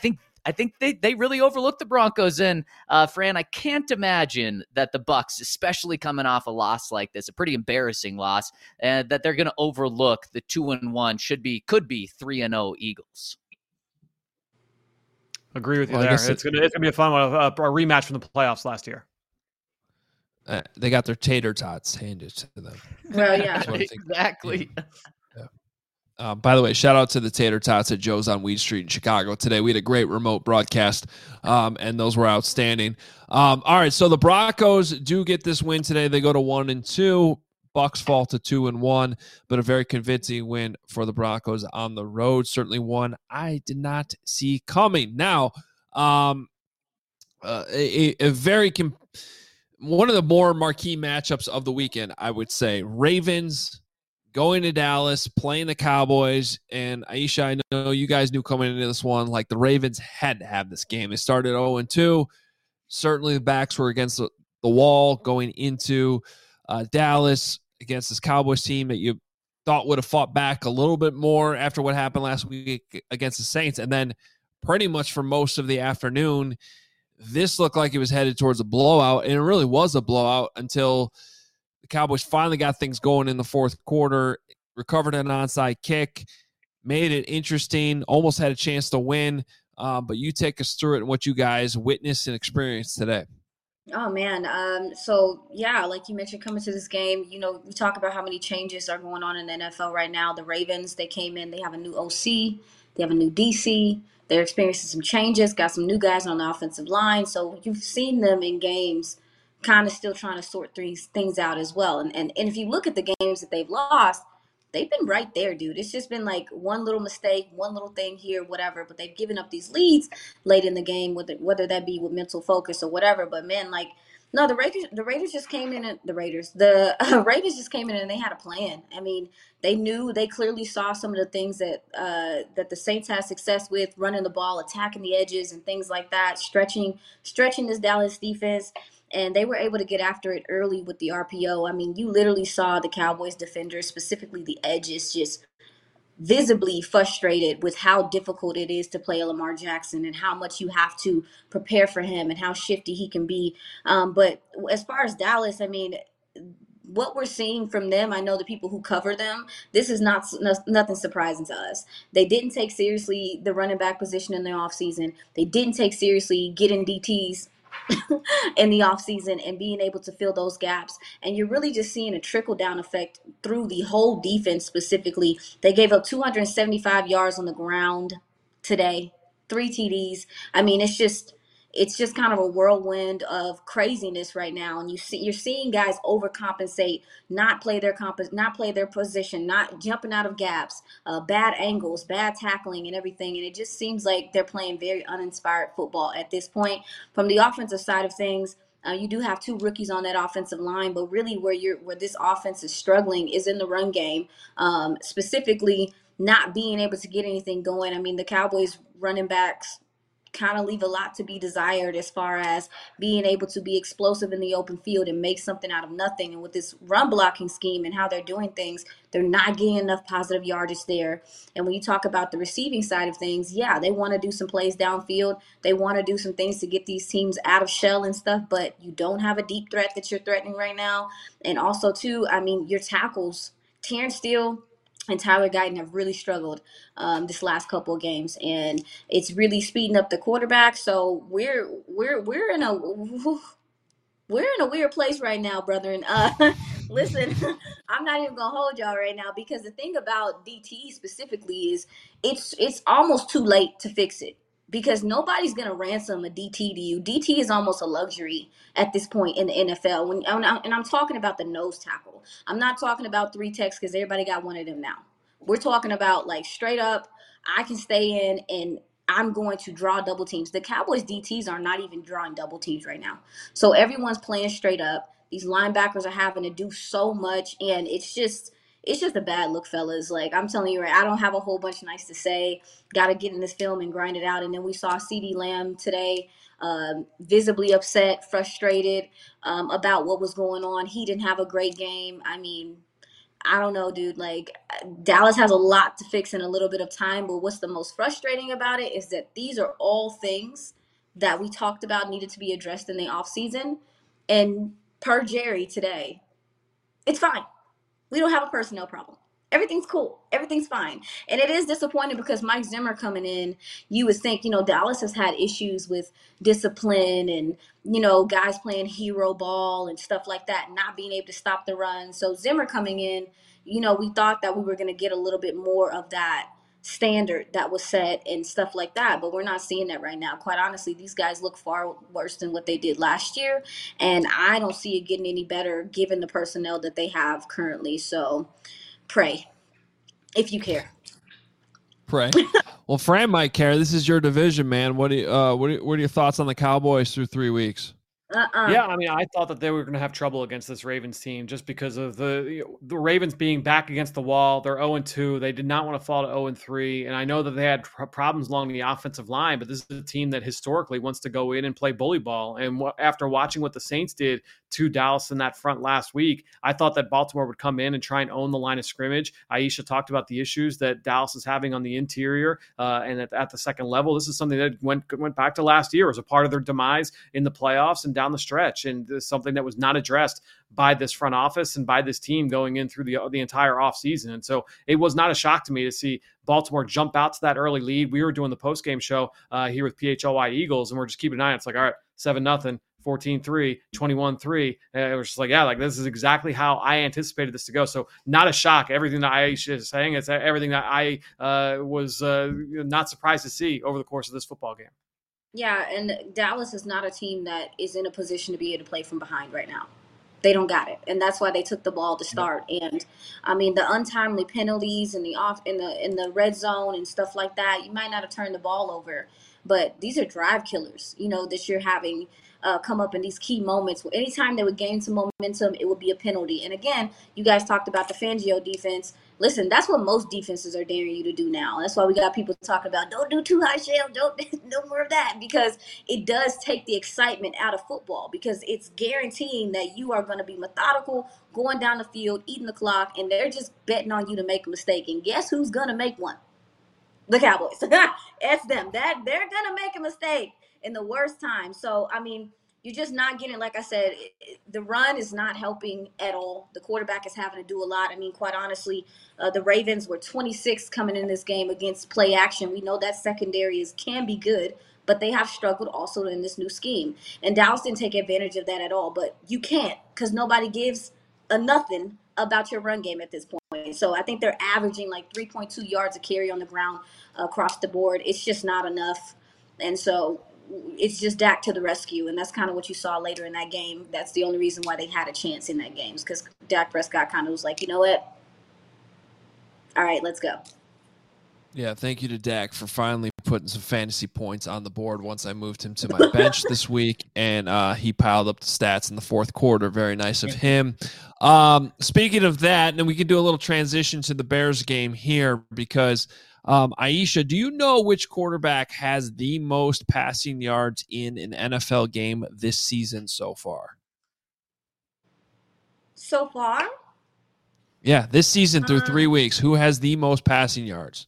I think they, they really overlooked the Broncos. And uh, Fran, I can't imagine that the Bucs, especially coming off a loss like this, a pretty embarrassing loss, uh, that they're going to overlook the two and one should be could be three and zero Eagles. Agree with you well, there. It's gonna it's gonna be a fun one, a, a rematch from the playoffs last year. Uh, they got their tater tots handed to them. Well, yeah, exactly. Yeah. Yeah. Um, by the way, shout out to the tater tots at Joe's on Weed Street in Chicago today. We had a great remote broadcast, um, and those were outstanding. Um, all right, so the Broncos do get this win today. They go to one and two. Bucs fall to two and one, but a very convincing win for the Broncos on the road. Certainly one I did not see coming. Now, um, uh, a, a very com- one of the more marquee matchups of the weekend, I would say. Ravens going to Dallas, playing the Cowboys, and Aisha, I know you guys knew coming into this one, like the Ravens had to have this game. They started oh and two. Certainly the backs were against the, the wall going into uh, Dallas against this Cowboys team that you thought would have fought back a little bit more after what happened last week against the Saints. And then pretty much for most of the afternoon, this looked like it was headed towards a blowout, and it really was a blowout until the Cowboys finally got things going in the fourth quarter, recovered an onside kick, made it interesting, almost had a chance to win. Um, but you take us through it and what you guys witnessed and experienced today. Oh man. Um, so yeah, like you mentioned, coming to this game, you know, we talk about how many changes are going on in the N F L right now. The Ravens, they came in, they have a new O C, they have a new D C, they're experiencing some changes, got some new guys on the offensive line. So you've seen them in games kind of still trying to sort these things out as well. And, and and if you look at the games that they've lost, they've been right there, dude. It's just been like one little mistake, one little thing here, whatever. But they've given up these leads late in the game, whether whether that be with mental focus or whatever. But man, like, no, the Raiders, the Raiders just came in, and the Raiders, the uh, Ravens just came in and they had a plan. I mean, they knew, they clearly saw some of the things that uh, that the Saints had success with, running the ball, attacking the edges, and things like that, stretching, stretching this Dallas defense. And they were able to get after it early with the R P O. I mean, you literally saw the Cowboys defenders, specifically the edges, just visibly frustrated with how difficult it is to play a Lamar Jackson and how much you have to prepare for him and how shifty he can be. Um, but as far as Dallas, I mean, what we're seeing from them, I know the people who cover them, this is not nothing surprising to us. They didn't take seriously the running back position in the offseason. They didn't take seriously getting D Ts in the offseason and being able to fill those gaps. And you're really just seeing a trickle-down effect through the whole defense specifically. They gave up two hundred seventy-five yards on the ground today, three T Ds. I mean, it's just it's just kind of a whirlwind of craziness right now. And you see, you're seeing guys overcompensate, not play their comp- not play their position, not jumping out of gaps, uh, bad angles, bad tackling, and everything. And it just seems like they're playing very uninspired football at this point. From the offensive side of things, uh, you do have two rookies on that offensive line, but really where you're where this offense is struggling is in the run game, um, specifically not being able to get anything going. I mean, the Cowboys running backs kind of leave a lot to be desired as far as being able to be explosive in the open field and make something out of nothing. And with this run blocking scheme and how they're doing things, they're not getting enough positive yardage there. And when you talk about the receiving side of things, yeah, they want to do some plays downfield. They want to do some things to get these teams out of shell and stuff, but you don't have a deep threat that you're threatening right now. And also, too, I mean, your tackles, Terrence Steele and Tyler Guyton have really struggled um, this last couple of games, and it's really speeding up the quarterback. So we're we're we're in a we're in a weird place right now, brethren. Uh, listen, I'm not even gonna hold y'all right now because the thing about D T specifically is it's it's almost too late to fix it. Because nobody's going to ransom a D T to you. D T is almost a luxury at this point in the N F L. When, and I'm talking about the nose tackle. I'm not talking about three techs because everybody got one of them now. We're talking about like straight up, I can stay in and I'm going to draw double teams. The Cowboys D Ts are not even drawing double teams right now. So everyone's playing straight up. These linebackers are having to do so much, and it's just – it's just a bad look, fellas. Like, I'm telling you, right, I don't have a whole bunch nice to say. Got to get in this film and grind it out. And then we saw CeeDee Lamb today um, visibly upset, frustrated um, about what was going on. He didn't have a great game. I mean, I don't know, dude. Like, Dallas has a lot to fix in a little bit of time, but what's the most frustrating about it is that these are all things that we talked about needed to be addressed in the offseason. And per Jerry today, it's fine. We don't have a personnel problem. Everything's cool. Everything's fine. And it is disappointing because Mike Zimmer coming in, you would think, you know, Dallas has had issues with discipline and, you know, guys playing hero ball and stuff like that, not being able to stop the run. So Zimmer coming in, you know, we thought that we were going to get a little bit more of that standard that was set and stuff like that, but we're not seeing that right now. Quite honestly, these guys look far worse than what they did last year, and I don't see it getting any better given the personnel that they have currently. So pray if you care. Pray. Well, Fran might care. This is your division, man. What do you, uh what are, what are your thoughts on the Cowboys through three weeks? Uh-uh. Yeah, I mean, I thought that they were going to have trouble against this Ravens team just because of the the Ravens being back against the wall. They're oh and two. They did not want to fall to oh and three. And I know that they had pr- problems along the offensive line, but this is a team that historically wants to go in and play bully ball. And w- after watching what the Saints did to Dallas in that front last week, I thought that Baltimore would come in and try and own the line of scrimmage. Aisha talked about the issues that Dallas is having on the interior uh, and at, at the second level. This is something that went went back to last year as a part of their demise in the playoffs and down the stretch. And something that was not addressed by this front office and by this team going in through the the entire offseason. And so it was not a shock to me to see Baltimore jump out to that early lead. We were doing the post-game show uh, here with P H L Y Eagles, and we're just keeping an eye on it. It's like, all right, seven nothing, fourteen three, twenty-one three. And it was just like, yeah, like this is exactly how I anticipated this to go. So not a shock. Everything that Aisha is saying, it's everything that I uh, was uh, not surprised to see over the course of this football game. Yeah, and Dallas is not a team that is in a position to be able to play from behind right now. They don't got it, and that's why they took the ball to start. And I mean, the untimely penalties in the off in the in the red zone and stuff like that. You might not have turned the ball over, but these are drive killers. You know that you're having uh, come up in these key moments. Anytime they would gain some momentum, it would be a penalty. And again, you guys talked about the Fangio defense. Listen, that's what most defenses are daring you to do now. That's why we got people talking about don't do too high shell, don't no more of that, because it does take the excitement out of football because it's guaranteeing that you are going to be methodical, going down the field, eating the clock, and they're just betting on you to make a mistake. And guess who's going to make one? The Cowboys. It's them. That they're going to make a mistake in the worst time. So, I mean, you're just not getting, like I said, it, it, the run is not helping at all. The quarterback is having to do a lot. I mean, quite honestly, uh, the Ravens were twenty-six coming in this game against play action. We know that secondary is can be good, but they have struggled also in this new scheme. And Dallas didn't take advantage of that at all. But you can't because nobody gives a nothing about your run game at this point. So I think they're averaging like three point two yards a carry on the ground uh, across the board. It's just not enough. And so it's just Dak to the rescue, and that's kind of what you saw later in that game. That's the only reason why they had a chance in that game, because Dak Prescott kind of was like, you know what? All right, let's go. Yeah, thank you to Dak for finally putting some fantasy points on the board once I moved him to my bench this week, and uh, he piled up the stats in the fourth quarter. Very nice of him. Um, speaking of that, and we can do a little transition to the Bears game here because Um, Aisha, do you know which quarterback has the most passing yards in an N F L game this season so far? So far? Yeah, this season through um, three weeks, who has the most passing yards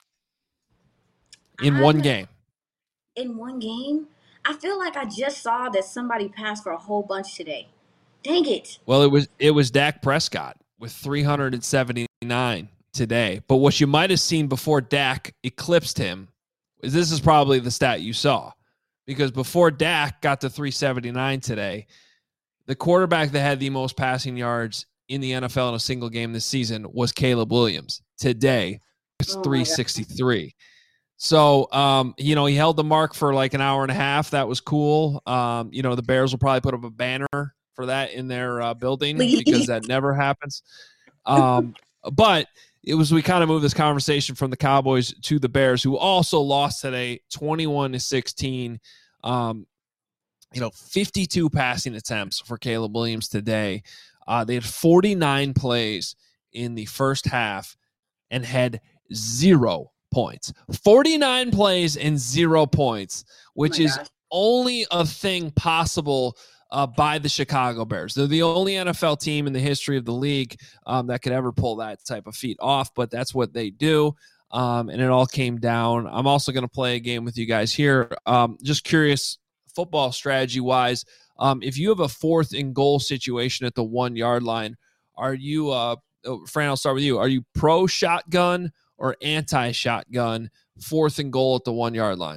in one game? In one game? I feel like I just saw that somebody passed for a whole bunch today. Dang it. Well, it was it was Dak Prescott with three hundred seventy-nine today. But what you might have seen before Dak eclipsed him is this is probably the stat you saw, because before Dak got to three seventy-nine today, the quarterback that had the most passing yards in the N F L in a single game this season was Caleb Williams. Today, it's Oh my three sixty-three. So, um, you know, he held the mark for like an hour and a half. That was cool. Um, you know, the Bears will probably put up a banner for that in their uh, building because that never happens. Um, but it was, we kind of moved this conversation from the Cowboys to the Bears, who also lost today, twenty-one to sixteen. Um, you know, fifty-two passing attempts for Caleb Williams today. Uh, they had forty-nine plays in the first half and had zero points. forty-nine plays and zero points, which Oh is gosh. only a thing possible uh, by the Chicago Bears. They're the only N F L team in the history of the league um, that could ever pull that type of feat off, but that's what they do. Um, and it all came down. I'm also going to play a game with you guys here. Um, just curious, football strategy wise, um, if you have a fourth and goal situation at the one yard line, are you, uh, Fran, I'll start with you. Are you pro shotgun or anti shotgun fourth and goal at the one yard line?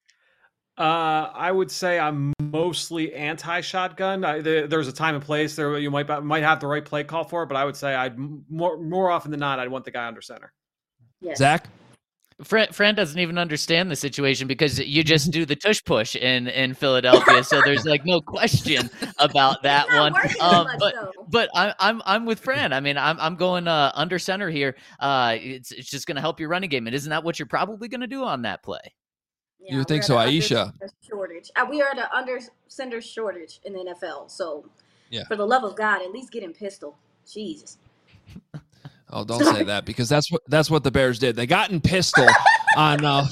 Uh, I would say I'm mostly anti-shotgun. I, there, there's a time and place there. You might might have the right play call for it, but I would say I'd more more often than not I'd want the guy under center. Yes. Zach? Fran, Fran doesn't even understand the situation because you just do the tush push in, in Philadelphia, so there's like no question about that one. Um, much, but though. but I'm I'm I'm with Fran. I mean, I'm I'm going uh, under center here. Uh, it's it's just going to help your running game, and isn't that what you're probably going to do on that play? Yeah, You would think we're so, at an Aisha. under shortage. Uh, we are at an under center shortage in the N F L. So, Yeah. for the love of God, at least get him pistol. Jesus. Oh, don't say that, because that's what that's what the Bears did. They got in pistol on. Uh,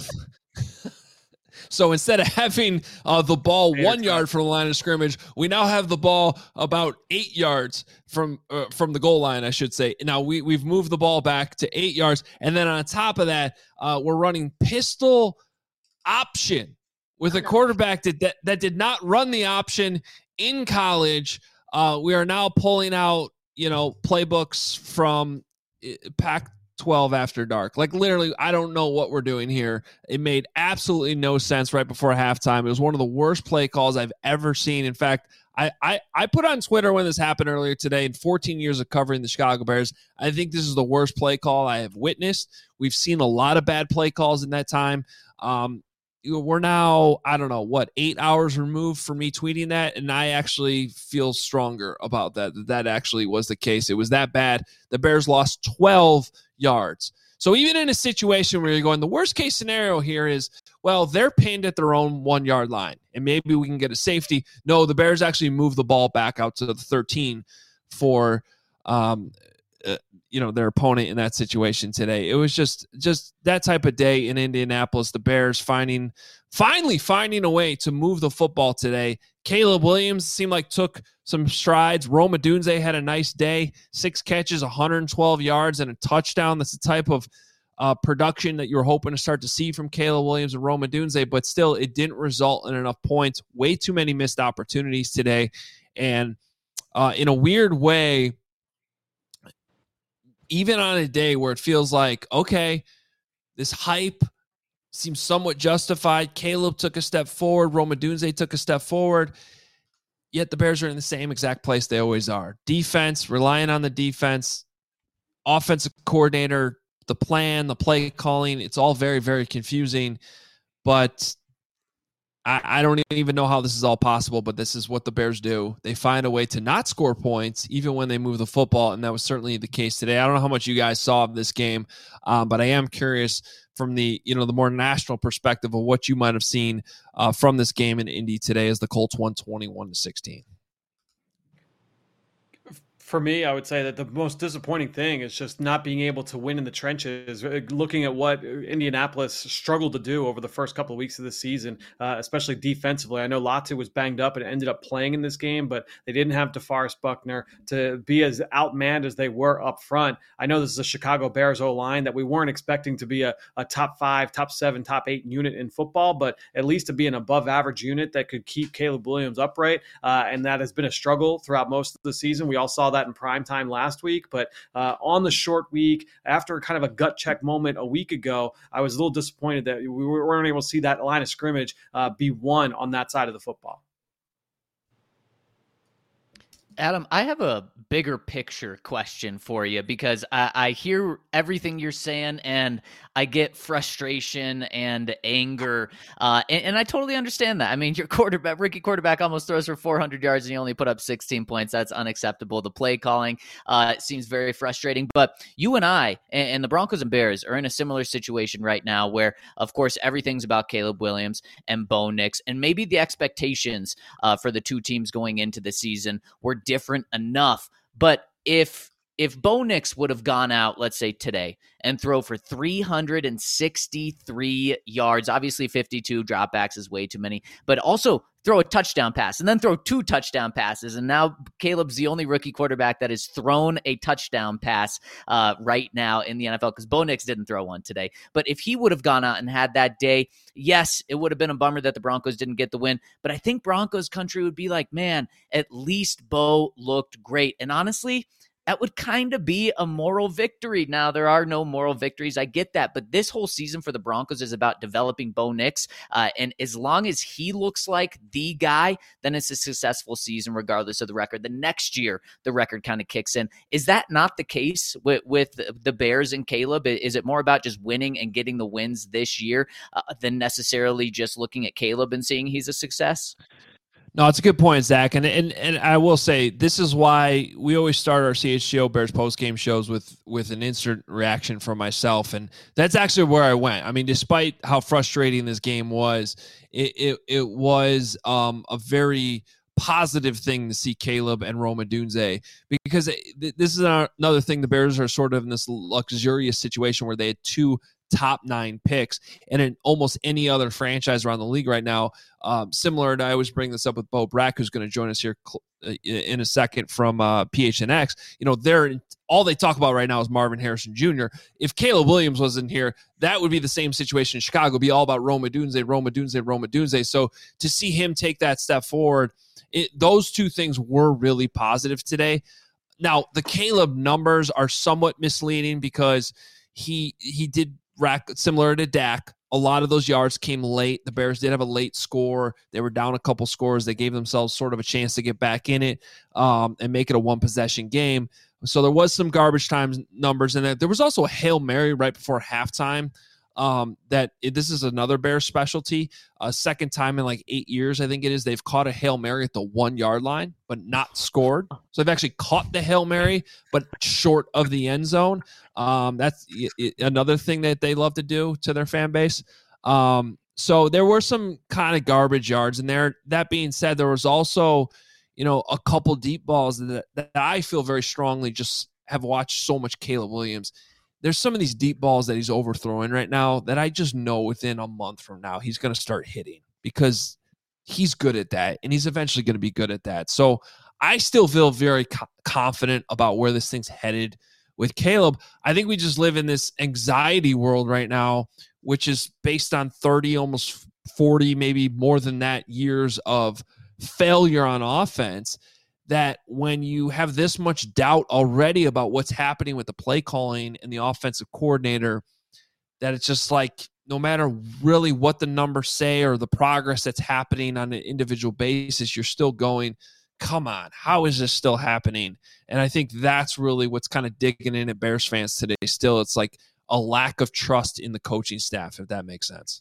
so instead of having uh, the ball one yard from the line of scrimmage, we now have the ball about eight yards from uh, from the goal line, I should say. Now we we've moved the ball back to eight yards, and then on top of that, uh, we're running pistol option with a quarterback that, that that did not run the option in college. Uh, we are now pulling out, you know, playbooks from Pac twelve after dark. Like, literally, I don't know what we're doing here. It made absolutely no sense right before halftime. It was one of the worst play calls I've ever seen. In fact, I, I, I put on Twitter when this happened earlier today, in fourteen years of covering the Chicago Bears, I think this is the worst play call I have witnessed. We've seen a lot of bad play calls in that time. Um, we're now, I don't know, what, eight hours removed from me tweeting that, and I actually feel stronger about that. That actually was the case. It was that bad. The Bears lost twelve yards. So even in a situation where you're going, the worst case scenario here is, well, they're pinned at their own one-yard line, and maybe we can get a safety. No, the Bears actually moved the ball back out to the thirteen for um, uh, you know, their opponent in that situation today. It was just just that type of day in Indianapolis. The Bears finding finally finding a way to move the football today. Caleb Williams seemed like took some strides. Rome Odunze had a nice day, six catches, one hundred twelve yards, and a touchdown. That's the type of uh, production that you were hoping to start to see from Caleb Williams and Rome Odunze, but still it didn't result in enough points. Way too many missed opportunities today. And uh, in a weird way, even on a day where it feels like, okay, this hype seems somewhat justified. Caleb took a step forward. Rome Odunze took a step forward. Yet the Bears are in the same exact place they always are. Defense, relying on the defense. Offensive coordinator, the plan, the play calling, it's all very, very confusing. But I, I don't even know how this is all possible, but this is what the Bears do. They find a way to not score points, even when they move the football, and that was certainly the case today. I don't know how much you guys saw of this game, um, but I am curious from the, you know, the more national perspective of what you might have seen uh, from this game in Indy today as the Colts won twenty-one to sixteen. For me, I would say that the most disappointing thing is just not being able to win in the trenches. Looking at what Indianapolis struggled to do over the first couple of weeks of the season, uh, especially defensively. I know Latu was banged up and ended up playing in this game, but they didn't have DeForest Buckner to be as outmanned as they were up front. I know this is a Chicago Bears O-line that we weren't expecting to be a, a top five, top seven, top eight unit in football, but at least to be an above average unit that could keep Caleb Williams upright. Uh, and that has been a struggle throughout most of the season. We all saw that in prime time last week, but uh, on the short week, after kind of a gut check moment a week ago, I was a little disappointed that we weren't able to see that line of scrimmage uh, be won on that side of the football. Adam, I have a bigger picture question for you because I, I hear everything you're saying and I get frustration and anger. Uh, and, and I totally understand that. I mean, your quarterback, rookie quarterback almost throws for four hundred yards and you only put up sixteen points. That's unacceptable. The play calling uh, seems very frustrating. But you and I and, and the Broncos and Bears are in a similar situation right now where, of course, everything's about Caleb Williams and Bo Nix. And maybe the expectations uh, for the two teams going into the season were different enough. But if if Bo Nix would have gone out, let's say today, and throw for three hundred sixty-three yards, obviously fifty-two dropbacks is way too many, but also throw a touchdown pass and then throw two touchdown passes. And now Caleb's the only rookie quarterback that has thrown a touchdown pass uh, right now in the N F L, because Bo Nix didn't throw one today. But if he would have gone out and had that day, yes, it would have been a bummer that the Broncos didn't get the win. But I think Broncos country would be like, man, at least Bo looked great. And honestly, that would kind of be a moral victory. Now, there are no moral victories. I get that. But this whole season for the Broncos is about developing Bo Nix. Uh, and as long as he looks like the guy, then it's a successful season regardless of the record. The next year, the record kind of kicks in. Is that not the case with, with the Bears and Caleb? Is it more about just winning and getting the wins this year uh, than necessarily just looking at Caleb and seeing he's a success? No, it's a good point, Zach. And and and I will say, this is why we always start our C H G O Bears post-game shows with with an instant reaction from myself. And that's actually where I went. I mean, despite how frustrating this game was, it it, it was um, a very positive thing to see Caleb and Rome Odunze, because it, this is another thing. The Bears are sort of in this luxurious situation where they had two top nine picks, and in almost any other franchise around the league right now, um, similar to, I always bring this up with Bo Brack, who's going to join us here cl- in a second from uh, P H N X. You know, they're all they talk about right now is Marvin Harrison Junior If Caleb Williams was in here, that would be the same situation in Chicago. It'd be all about Rome Odunze, Rome Odunze, Rome Odunze. So to see him take that step forward, it, those two things were really positive today. Now, the Caleb numbers are somewhat misleading because he he did rack, similar to Dak, a lot of those yards came late. The Bears did have a late score. They were down a couple scores. They gave themselves sort of a chance to get back in it um, and make it a one-possession game. So there was some garbage time numbers in it. There was also a Hail Mary right before halftime. Um, that it, this is another Bears specialty. A uh, second time in like eight years, I think it is, they've caught a Hail Mary at the one-yard line, but not scored. So they've actually caught the Hail Mary, but short of the end zone. Um, that's it, it, another thing that they love to do to their fan base. Um, so there were some kind of garbage yards in there. That being said, there was also, you know, a couple deep balls that, that I feel very strongly just have watched so much Caleb Williams. There's some of these deep balls that he's overthrowing right now that I just know within a month from now he's going to start hitting, because he's good at that, and he's eventually going to be good at that. So I still feel very co- confident about where this thing's headed with Caleb. I think we just live in this anxiety world right now, which is based on thirty, almost forty, maybe more than that, years of failure on offense, that when you have this much doubt already about what's happening with the play calling and the offensive coordinator, that it's just like, no matter really what the numbers say or the progress that's happening on an individual basis, you're still going, come on, how is this still happening? And I think that's really what's kind of digging in at Bears fans today. Still, it's like a lack of trust in the coaching staff, if that makes sense.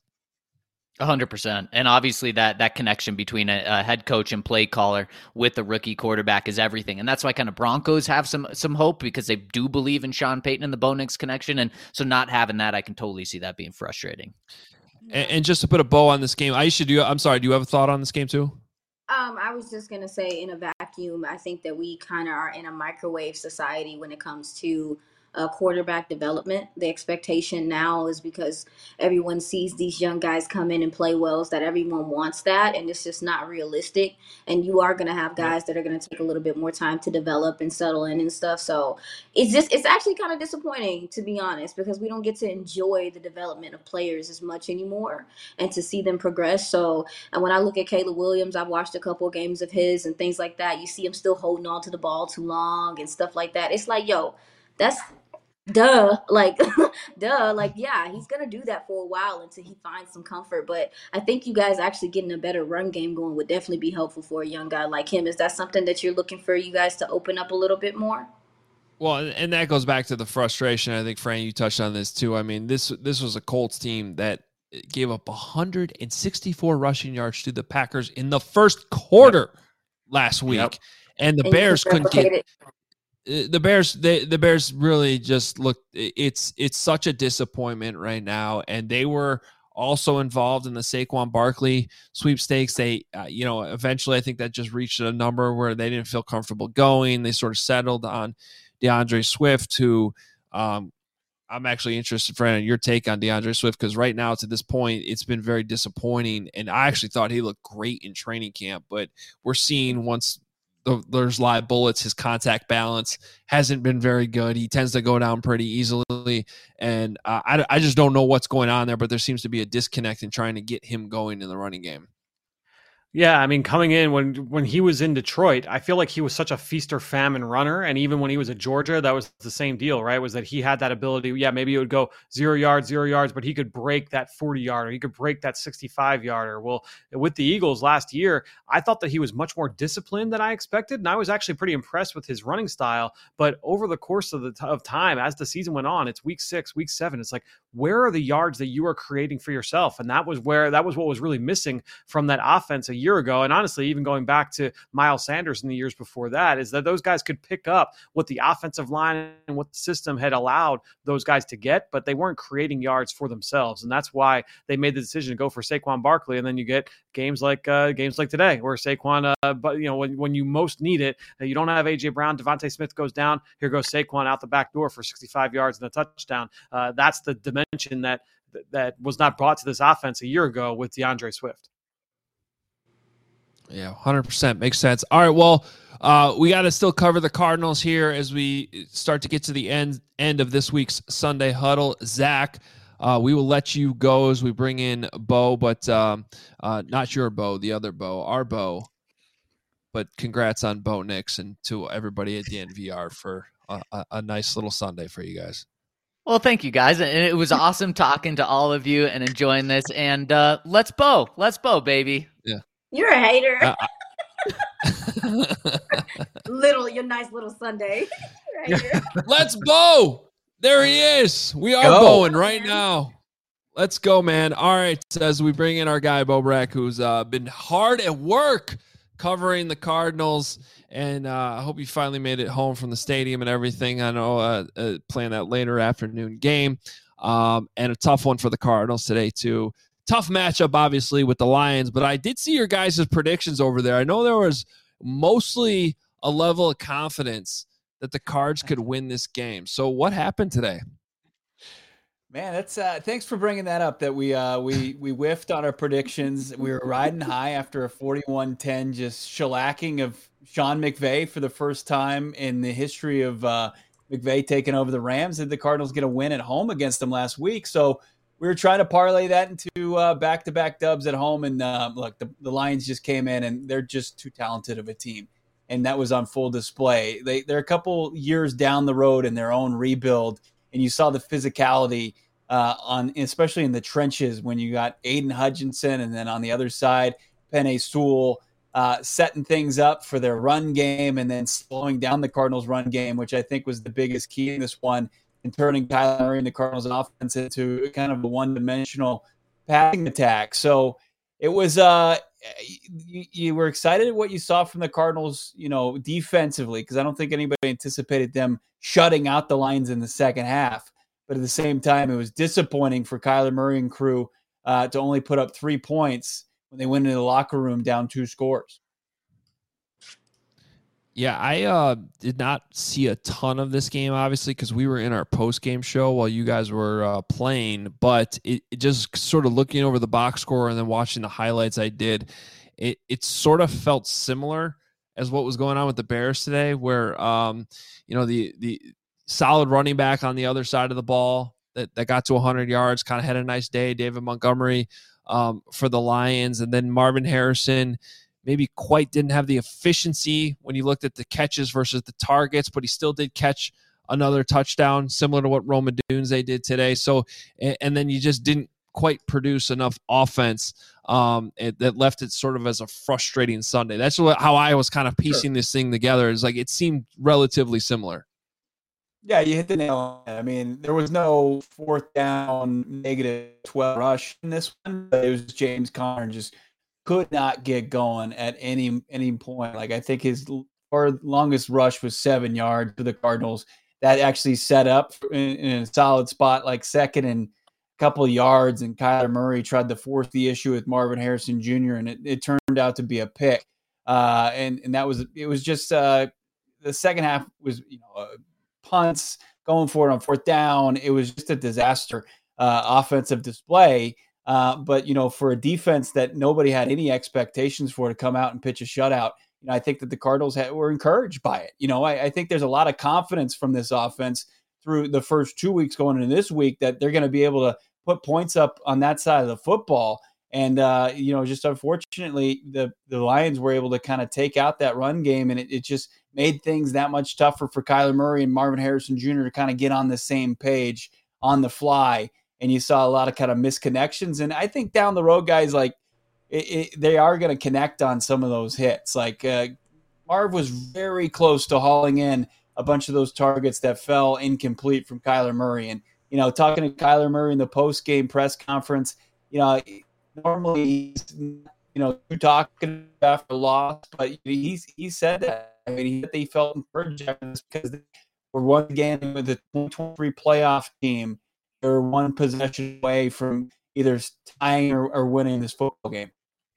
A hundred percent. And obviously that, that connection between a, a head coach and play caller with a rookie quarterback is everything. And that's why kind of Broncos have some, some hope, because they do believe in Sean Payton and the Bo Nix connection. And so not having that, I can totally see that being frustrating. And, and just to put a bow on this game, Aisha, do you, I'm sorry, do you have a thought on this game too? Um, I was just going to say, in a vacuum, I think that we kind of are in a microwave society when it comes to uh, quarterback development. The expectation now is, because everyone sees these young guys come in and play well, is that everyone wants that, and it's just not realistic. And you are going to have guys that are going to take a little bit more time to develop and settle in and stuff. So it's just, it's actually kind of disappointing, to be honest, because we don't get to enjoy the development of players as much anymore and to see them progress. So, and when I look at Caleb Williams, I've watched a couple of games of his and things like that. You see him still holding on to the ball too long and stuff like that. It's like, yo, that's duh, like, duh, like, yeah, he's going to do that for a while until he finds some comfort. But I think you guys actually getting a better run game going would definitely be helpful for a young guy like him. Is that something that you're looking for you guys to open up a little bit more? Well, and that goes back to the frustration. I think, Fran, you touched on this too. I mean, this this was a Colts team that gave up one hundred sixty-four rushing yards to the Packers in the first quarter yep. last week. Yep. And the and Bears couldn't get it. The Bears, they, the Bears really just look. It's it's such a disappointment right now, and they were also involved in the Saquon Barkley sweepstakes. They, uh, you know, eventually I think that just reached a number where they didn't feel comfortable going. They sort of settled on DeAndre Swift, who um, I'm actually interested, Fran, in your take on DeAndre Swift, because right now to this point, it's been very disappointing. And I actually thought he looked great in training camp, but we're seeing once the, there's live bullets, his contact balance hasn't been very good. He tends to go down pretty easily. And uh, I, I just don't know what's going on there, but there seems to be a disconnect in trying to get him going in the running game. Yeah, I mean, coming in when when he was in Detroit, I feel like he was such a feast or famine runner, and even when he was at Georgia, that was the same deal, right? Was that he had that ability? Yeah, maybe it would go zero yards, zero yards, but he could break that forty yarder, he could break that sixty-five yarder. Well, with the Eagles last year, I thought that he was much more disciplined than I expected, and I was actually pretty impressed with his running style. But over the course of the t- of time, as the season went on, it's week six, week seven. It's like, where are the yards that you are creating for yourself? And that was where that was what was really missing from that offense a year ago. And honestly, even going back to Miles Sanders in the years before that, is that those guys could pick up what the offensive line and what the system had allowed those guys to get, but they weren't creating yards for themselves. And that's why they made the decision to go for Saquon Barkley. And then you get games like uh, games like today, where Saquon, uh, but you know, when, when you most need it, you don't have A J Brown, Devontae Smith goes down. Here goes Saquon out the back door for sixty-five yards and a touchdown. Uh, that's the dimension that that was not brought to this offense a year ago with DeAndre Swift. Yeah, one hundred percent makes sense. All right, well, uh, we got to still cover the Cardinals here as we start to get to the end end of this week's Sunday Huddle. Zach, uh, we will let you go as we bring in Bo, but um, uh, not your Bo, the other Bo, our Bo. But congrats on Bo Nix and to everybody at the N V R for a, a, a nice little Sunday for you guys. Well, thank you guys. And it was awesome talking to all of you and enjoying this. And uh, let's Bo. Let's Bo, baby. Yeah. You're a hater. Uh, little, your nice little Sunday. Right here. Let's Bo. There he is. We are Go. bowing right now. Let's go, man. All right. As we bring in our guy, Bo Brack, who's uh, been hard at work covering the Cardinals. And uh, I hope you finally made it home from the stadium and everything. I know uh, uh, playing that later afternoon game. Um, and a tough one for the Cardinals today, too. Tough matchup, obviously, with the Lions, but I did see your guys' predictions over there. I know there was mostly a level of confidence that the Cards could win this game. So what happened today? Man, that's uh, thanks for bringing that up. That we uh, we we whiffed on our predictions. We were riding high after a forty-one ten just shellacking of Sean McVay for the first time in the history of uh, McVay taking over the Rams. Did the Cardinals get a win at home against them last week? So we were trying to parlay that into uh, back-to-back dubs at home. And uh, look, the, the Lions just came in, and they're just too talented of a team. And that was on full display. They, they're a couple years down the road in their own rebuild, and you saw the physicality uh, on, especially in the trenches when you got Aiden Hutchinson, and then on the other side, Penei Sewell uh, setting things up for their run game and then slowing down the Cardinals' run game, which I think was the biggest key in this one, and turning Kyler Murray and the Cardinals offense into kind of a one-dimensional passing attack. So it was uh, you, you were excited at what you saw from the Cardinals, you know, defensively, because I don't think anybody anticipated them shutting out the Lions in the second half. But at the same time, it was disappointing for Kyler Murray and crew uh, to only put up three points when they went into the locker room down two scores. Yeah, I uh, did not see a ton of this game, obviously, because we were in our post-game show while you guys were uh, playing. But it, it just sort of looking over the box score and then watching the highlights I did, it, it sort of felt similar as what was going on with the Bears today, where, um, you know, the the solid running back on the other side of the ball that, that got to one hundred yards, kind of had a nice day, David Montgomery um, for the Lions. And then Marvin Harrison maybe quite didn't have the efficiency when you looked at the catches versus the targets, but he still did catch another touchdown, similar to what Rome Odunze did today. So, and, and then you just didn't quite produce enough offense um, it, that left it sort of as a frustrating Sunday. That's what, how I was kind of piecing sure. this thing together. Is like it seemed relatively similar. Yeah, you hit the nail on it. I mean, there was no fourth down negative twelve rush in this one, but it was James Conner just could not get going at any any point. Like I think his far longest rush was seven yards for the Cardinals. That actually set up in, in a solid spot, like second and a couple of yards. And Kyler Murray tried to force the issue with Marvin Harrison Junior and it, it turned out to be a pick. Uh, and and that was it was just uh, the second half was you know uh, punts, going for it on fourth down. It was just a disaster uh, offensive display. Uh, but, you know, for a defense that nobody had any expectations for to come out and pitch a shutout, you know, I think that the Cardinals had, were encouraged by it. You know, I, I think there's a lot of confidence from this offense through the first two weeks going into this week that they're going to be able to put points up on that side of the football. And, uh, you know, just unfortunately, the, the Lions were able to kind of take out that run game, and it, it just made things that much tougher for Kyler Murray and Marvin Harrison Junior to kind of get on the same page on the fly. And you saw a lot of kind of misconnections. And I think down the road, guys, like it, it, they are going to connect on some of those hits. Like uh, Marv was very close to hauling in a bunch of those targets that fell incomplete from Kyler Murray. And, you know, talking to Kyler Murray in the post-game press conference, you know, normally he's, you know, talking after loss, but he's, he said that. I mean, he, they felt encouraged after this because they were once again with the twenty twenty-three playoff team. They're one possession away from either tying or, or winning this football game.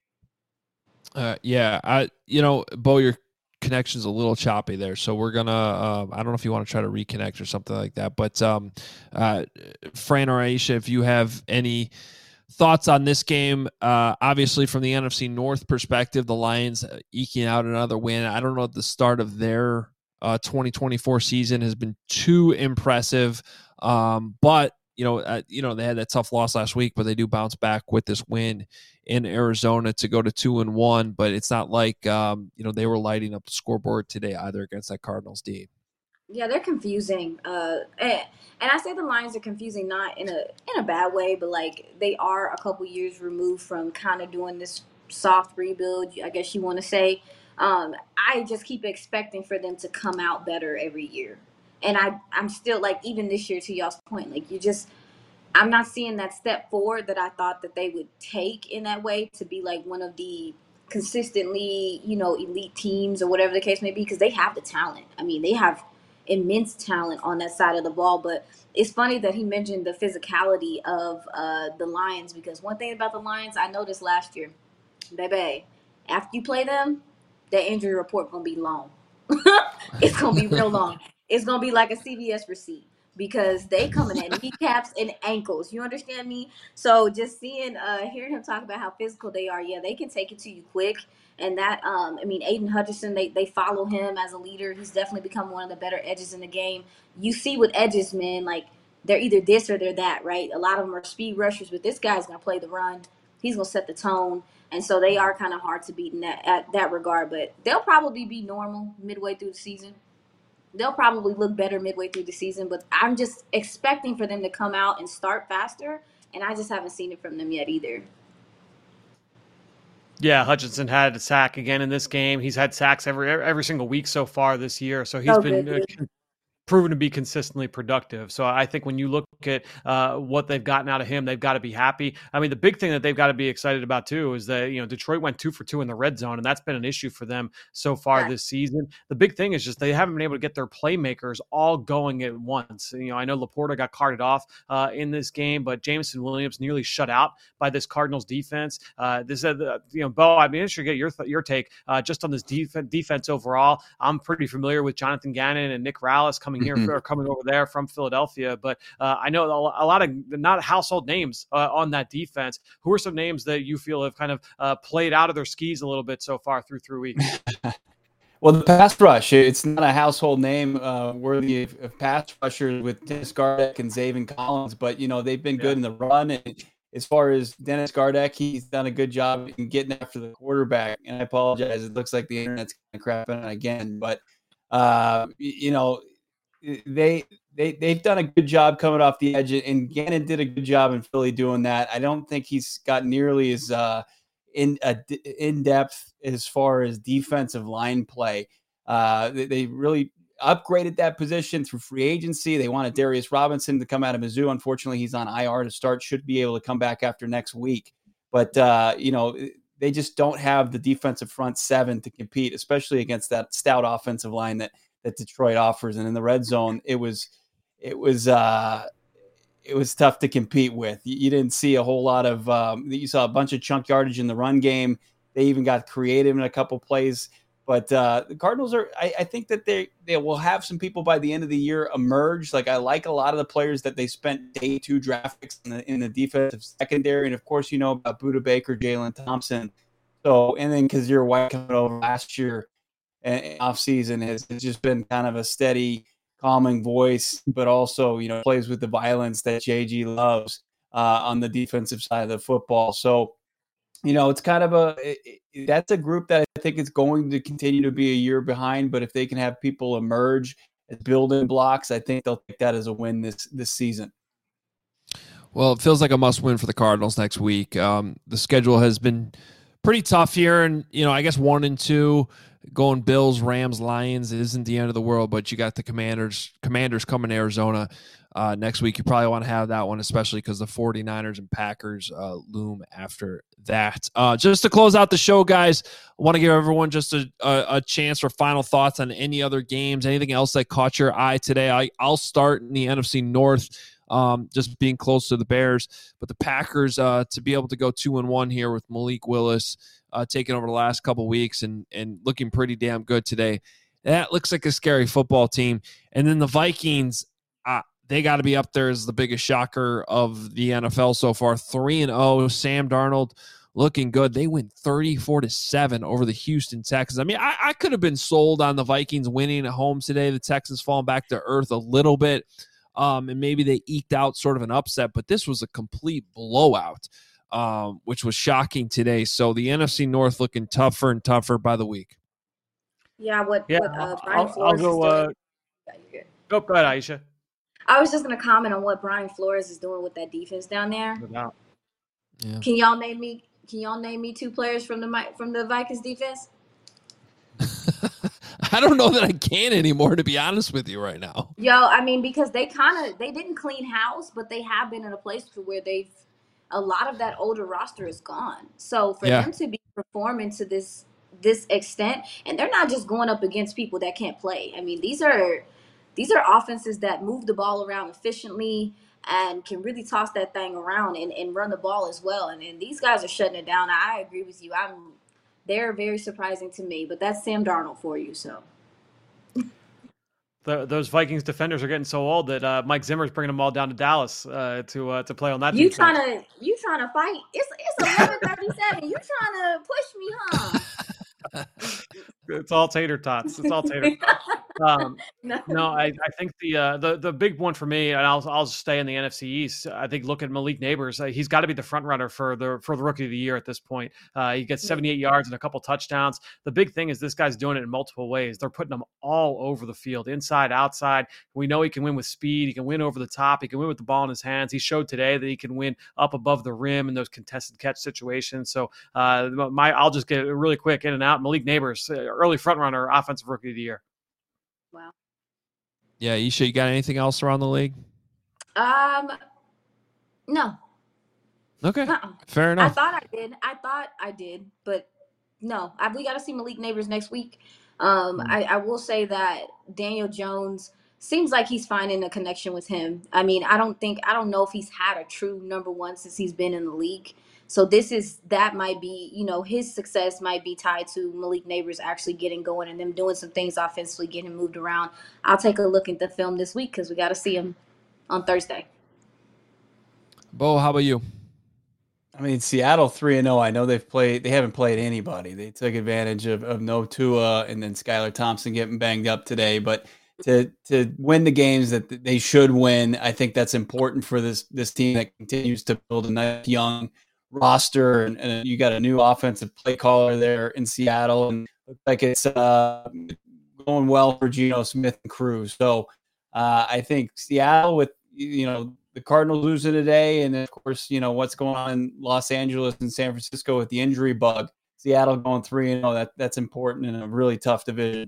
Uh, yeah, I you know, Bo, your connection's a little choppy there, so we're gonna. Uh, I don't know if you want to try to reconnect or something like that, but um, uh, Fran or Aisha, if you have any thoughts on this game, uh, obviously from the N F C North perspective, the Lions eking out another win. I don't know if the start of their uh, twenty twenty-four season has been too impressive, um, but. You know, uh, you know they had that tough loss last week, but they do bounce back with this win in Arizona to go to two and one. But it's not like um, you know they were lighting up the scoreboard today either against that Cardinals D. Yeah, they're confusing, uh, and, and I say the Lions are confusing not in a in a bad way, but like they are a couple years removed from kind of doing this soft rebuild, I guess you want to say. Um, I just keep expecting for them to come out better every year. And I, I'm still like, even this year, to y'all's point, like you just, I'm not seeing that step forward that I thought that they would take in that way to be like one of the consistently, you know, elite teams or whatever the case may be, because they have the talent. I mean, they have immense talent on that side of the ball. But it's funny that he mentioned the physicality of uh, the Lions, because one thing about the Lions I noticed last year, baby, after you play them, that injury report going to be long. It's going to be real long. It's going to be like a C V S receipt because they coming at kneecaps and ankles. You understand me? So just seeing, uh, hearing him talk about how physical they are, yeah, they can take it to you quick. And that, um, I mean, Aiden Hutchinson, they, they follow him as a leader. He's definitely become one of the better edges in the game. You see with edges, man, like they're either this or they're that, right? A lot of them are speed rushers, but this guy's going to play the run. He's going to set the tone. And so they are kind of hard to beat in that, at that regard. But they'll probably be normal midway through the season. They'll probably look better midway through the season, but I'm just expecting for them to come out and start faster, and I just haven't seen it from them yet either. Yeah, Hutchinson had a sack again in this game. He's had sacks every every single week so far this year, so he's Oh, been good, uh, good. proven to be consistently productive. So I think when you look at uh, what they've gotten out of him, they've got to be happy. I mean, the big thing that they've got to be excited about too is that, you know, Detroit went two for two in the red zone, and that's been an issue for them so far Yeah. this season. The big thing is just they haven't been able to get their playmakers all going at once. You know, I know Laporta got carted off uh, in this game, but Jameson Williams nearly shut out by this Cardinals defense. Uh, this, uh, you know, Bo, I'd be interested to get your th- your take uh, just on this def- defense overall. I'm pretty familiar with Jonathan Gannon and Nick Rallis coming here Mhm. or coming over there from Philadelphia, but uh, I know a lot of not household names uh, on that defense. Who are some names that you feel have kind of uh, played out of their skis a little bit so far through three weeks? Well, the pass rush, it's not a household name uh, worthy of, of pass rushers with Dennis Gardeck and Zaven Collins, but, you know, they've been good Yeah. in the run. And as far as Dennis Gardeck, he's done a good job in getting after the quarterback. And I apologize. It looks like the internet's kind of crapping out again, but, uh, you know, they they they've done a good job coming off the edge, and Gannon did a good job in Philly doing that. I don't think he's got nearly as uh, in uh, in depth as far as defensive line play. Uh, they, they really upgraded that position through free agency. They wanted Darius Robinson to come out of Mizzou. Unfortunately, he's on I R to start. Should be able to come back after next week, but uh, you know. They just don't have the defensive front seven to compete, especially against that stout offensive line that that Detroit offers. And in the red zone, it was it was uh, it was tough to compete with. You, you didn't see a whole lot of um, you saw a bunch of chunk yardage in the run game. They even got creative in a couple plays. But uh, the Cardinals are, I, I think that they, they will have some people by the end of the year emerge. Like I like a lot of the players that they spent day two draft picks in the, in the defensive secondary. And of course, you know about Budda Baker, Jalen Thompson. So, and then Kazir White coming over last year and offseason has, has just been kind of a steady, calming voice, but also, you know, plays with the violence that J G loves uh, on the defensive side of the football. So, you know, it's kind of a it, it, that's a group that I think is going to continue to be a year behind. But if they can have people emerge as building blocks, I think they'll take that as a win this this season. Well, it feels like a must win for the Cardinals next week. Um, the schedule has been pretty tough here, and you know, I guess one and two going Bills, Rams, Lions isn't the end of the world. But you got the Commanders. Commanders coming to Arizona. Uh, next week, you probably want to have that one, especially because the 49ers and Packers uh, loom after that. Uh, just to close out the show, guys, I want to give everyone just a, a, a chance for final thoughts on any other games, anything else that caught your eye today. I, I'll start in the N F C North, um, just being close to the Bears. But the Packers, uh, to be able to go two and one here with Malik Willis uh, taking over the last couple weeks and, and looking pretty damn good today, that looks like a scary football team. And then the Vikings, uh, they got to be up there as the biggest shocker of the N F L so far. three and oh, Sam Darnold looking good. They win thirty-four to seven over the Houston Texans. I mean, I, I could have been sold on the Vikings winning at home today. The Texans falling back to earth a little bit, um, and maybe they eked out sort of an upset, but this was a complete blowout, um, which was shocking today. So the N F C North looking tougher and tougher by the week. Yeah, what, Yeah, what uh, Brian I'll, Flores I'll go. is Uh, doing. Yeah, you're good. go, go ahead, Aisha. I was just gonna comment on what Brian Flores is doing with that defense down there. No. Yeah. Can y'all name me? Can y'all name me two players from the Mi- from the Vikings defense? I don't know that I can anymore, to be honest with you right now. Yo, I mean, because they kind of they didn't clean house, but they have been in a place to where they've a lot of that older roster is gone. So for Yeah. them to be performing to this this extent, and they're not just going up against people that can't play. I mean, these are these are offenses that move the ball around efficiently and can really toss that thing around and, and run the ball as well. And, and these guys are shutting it down. I agree with you. I'm they're very surprising to me, but that's Sam Darnold for you. So The, those Vikings defenders are getting so old that uh, Mike Zimmer's bringing them all down to Dallas uh, to uh, to play on that. you defense. trying to you trying to fight? It's it's eleven thirty seven. You trying to push me, huh? It's all tater tots. It's all tater tots. Um, No. no, I, I think the uh, the the big one for me, and I'll I'll stay in the N F C East. I think look at Malik Neighbors. Uh, he's got to be the front runner for the for the rookie of the year at this point. Uh, he gets seventy-eight yards and a couple touchdowns. The big thing is this guy's doing it in multiple ways. They're putting him all over the field, inside, outside. We know he can win with speed. He can win over the top. He can win with the ball in his hands. He showed today that he can win up above the rim in those contested catch situations. So uh, my I'll just get really quick in and out. Malik Neighbors, uh, early front runner, offensive rookie of the year. Wow. Yeah, Isha, you got anything else around the league? Um, no. Okay, Uh-uh. fair I enough. thought I did. I thought I did, but no. I, we got to see Malik Neighbors next week. Um, Mm. I, I will say that Daniel Jones seems like he's finding a connection with him. I mean, I don't think I don't know if he's had a true number one since he's been in the league. So this is that might be, you know, his success might be tied to Malik Neighbors actually getting going and them doing some things offensively, getting him moved around. I'll take a look at the film this week because we got to see him on Thursday. Bo, how about you? I mean, Seattle three and zero. I know they've played. They haven't played anybody. They took advantage of, of no Tua and then Skylar Thompson getting banged up today. But to to win the games that they should win, I think that's important for this this team that continues to build a nice young roster. And, and you got a new offensive play caller there in Seattle, and looks like it's uh, going well for Geno Smith and crew. So uh, I think Seattle with you know. the Cardinals losing today, and of course, you know what's going on in Los Angeles and San Francisco with the injury bug. Seattle going three and oh, that that's important in a really tough division.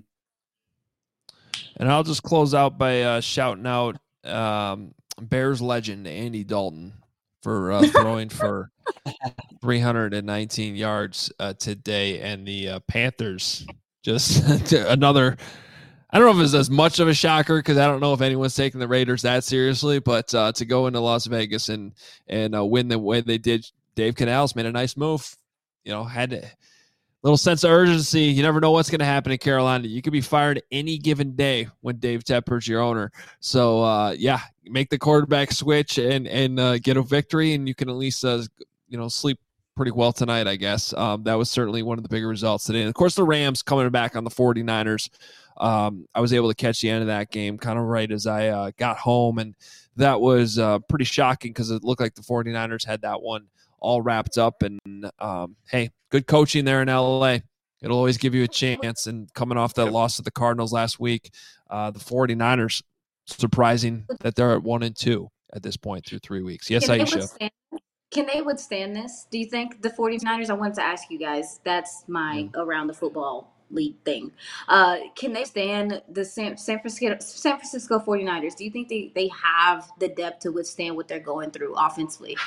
And I'll just close out by uh, shouting out um, Bears legend Andy Dalton for uh, throwing for three hundred nineteen yards uh, today, and the uh, Panthers just another. I don't know if it's as much of a shocker because I don't know if anyone's taking the Raiders that seriously, but uh, to go into Las Vegas and and uh, win the way they did, Dave Canales made a nice move. You know, had to little sense of urgency. You never know what's going to happen in Carolina. You could be fired any given day when Dave Tepper's your owner. So, uh, yeah, make the quarterback switch and and uh, get a victory, and you can at least, uh, you know, sleep pretty well tonight, I guess. Um, that was certainly one of the bigger results today. And, of course, the Rams coming back on the 49ers. Um, I was able to catch the end of that game kind of right as I uh, got home, and that was uh, pretty shocking because it looked like the 49ers had that one all wrapped up. And, um, hey, good coaching there in L A. It'll always give you a chance. And coming off that yep. loss to the Cardinals last week, uh, the 49ers, surprising that they're at one and two at this point through three weeks. Yes, Can Aisha. They Can they withstand this? Do you think the 49ers, I wanted to ask you guys, that's my yeah. around the football league thing. Uh, can they stand the San, San Francisco San Francisco 49ers? Do you think they, they have the depth to withstand what they're going through offensively?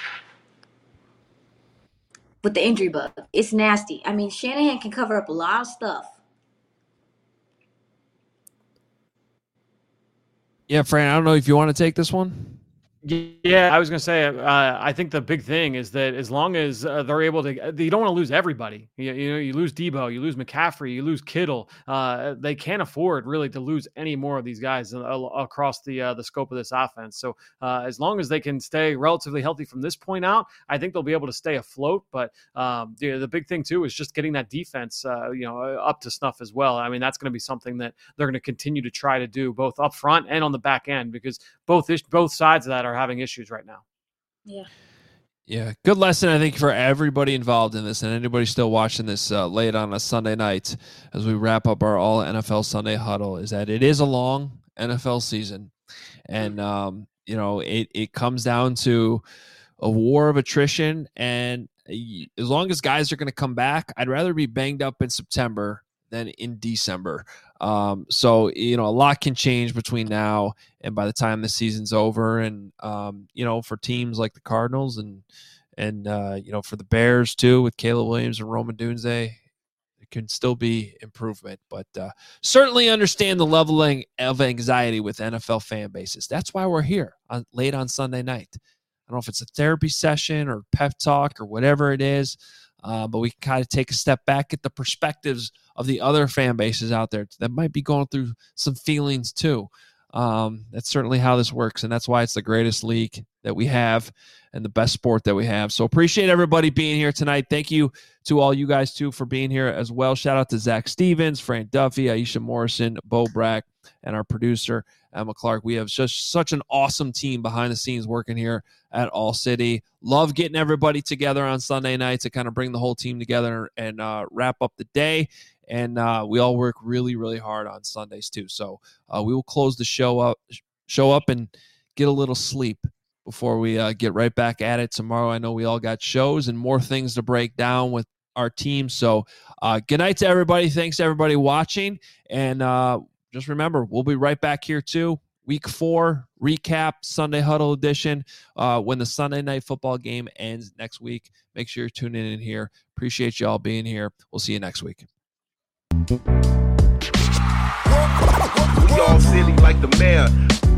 With the injury bug, it's nasty. I mean, Shanahan can cover up a lot of stuff. Yeah, Fran, I don't know if you want to take this one. Yeah, I was going to say, uh, I think the big thing is that as long as uh, they're able to, you don't want to lose everybody. You, you know, you lose Debo, you lose McCaffrey, you lose Kittle. Uh, they can't afford really to lose any more of these guys uh, across the uh, the scope of this offense. So uh, as long as they can stay relatively healthy from this point out, I think they'll be able to stay afloat. But um, the, the big thing too is just getting that defense, uh, you know, up to snuff as well. I mean, that's going to be something that they're going to continue to try to do both up front and on the back end, because both both sides of that are having issues right now. Yeah. Yeah. Good lesson, I think, for everybody involved in this and anybody still watching this uh, late on a Sunday night as we wrap up our all N F L Sunday huddle, is that it is a long N F L season. And, um, you know, it, it comes down to a war of attrition. And as long as guys are going to come back, I'd rather be banged up in September than in December. Um, so, you know, a lot can change between now and by the time the season's over. And, um, you know, for teams like the Cardinals and, and uh, you know, for the Bears too, with Caleb Williams and Roman Dunze, it can still be improvement. But uh, certainly understand the level of anxiety with N F L fan bases. That's why we're here on, late on Sunday night. I don't know if it's a therapy session or pep talk or whatever it is. Uh, but we can kind of take a step back at the perspectives of the other fan bases out there that might be going through some feelings too. Um, that's certainly how this works, and that's why it's the greatest league that we have and the best sport that we have. So appreciate everybody being here tonight. Thank you to all you guys too for being here as well. Shout out to Zach Stevens, Fran Duffy, Aisha Morrison, Bo Brack, and our producer, Emma Clark. We have just such an awesome team behind the scenes working here at All City. Love getting everybody together on Sunday night to kind of bring the whole team together and uh, wrap up the day. And uh, we all work really, really hard on Sundays too. So uh, we will close the show up, show up and get a little sleep before we uh, get right back at it tomorrow. I know we all got shows and more things to break down with our team. So uh, good night to everybody. Thanks to everybody watching. And uh, just remember, we'll be right back here too. Week four recap, Sunday Huddle edition, uh, when the Sunday night football game ends next week. Make sure you're tuning in here. Appreciate you all being here. We'll see you next week. We all silly like the mayor.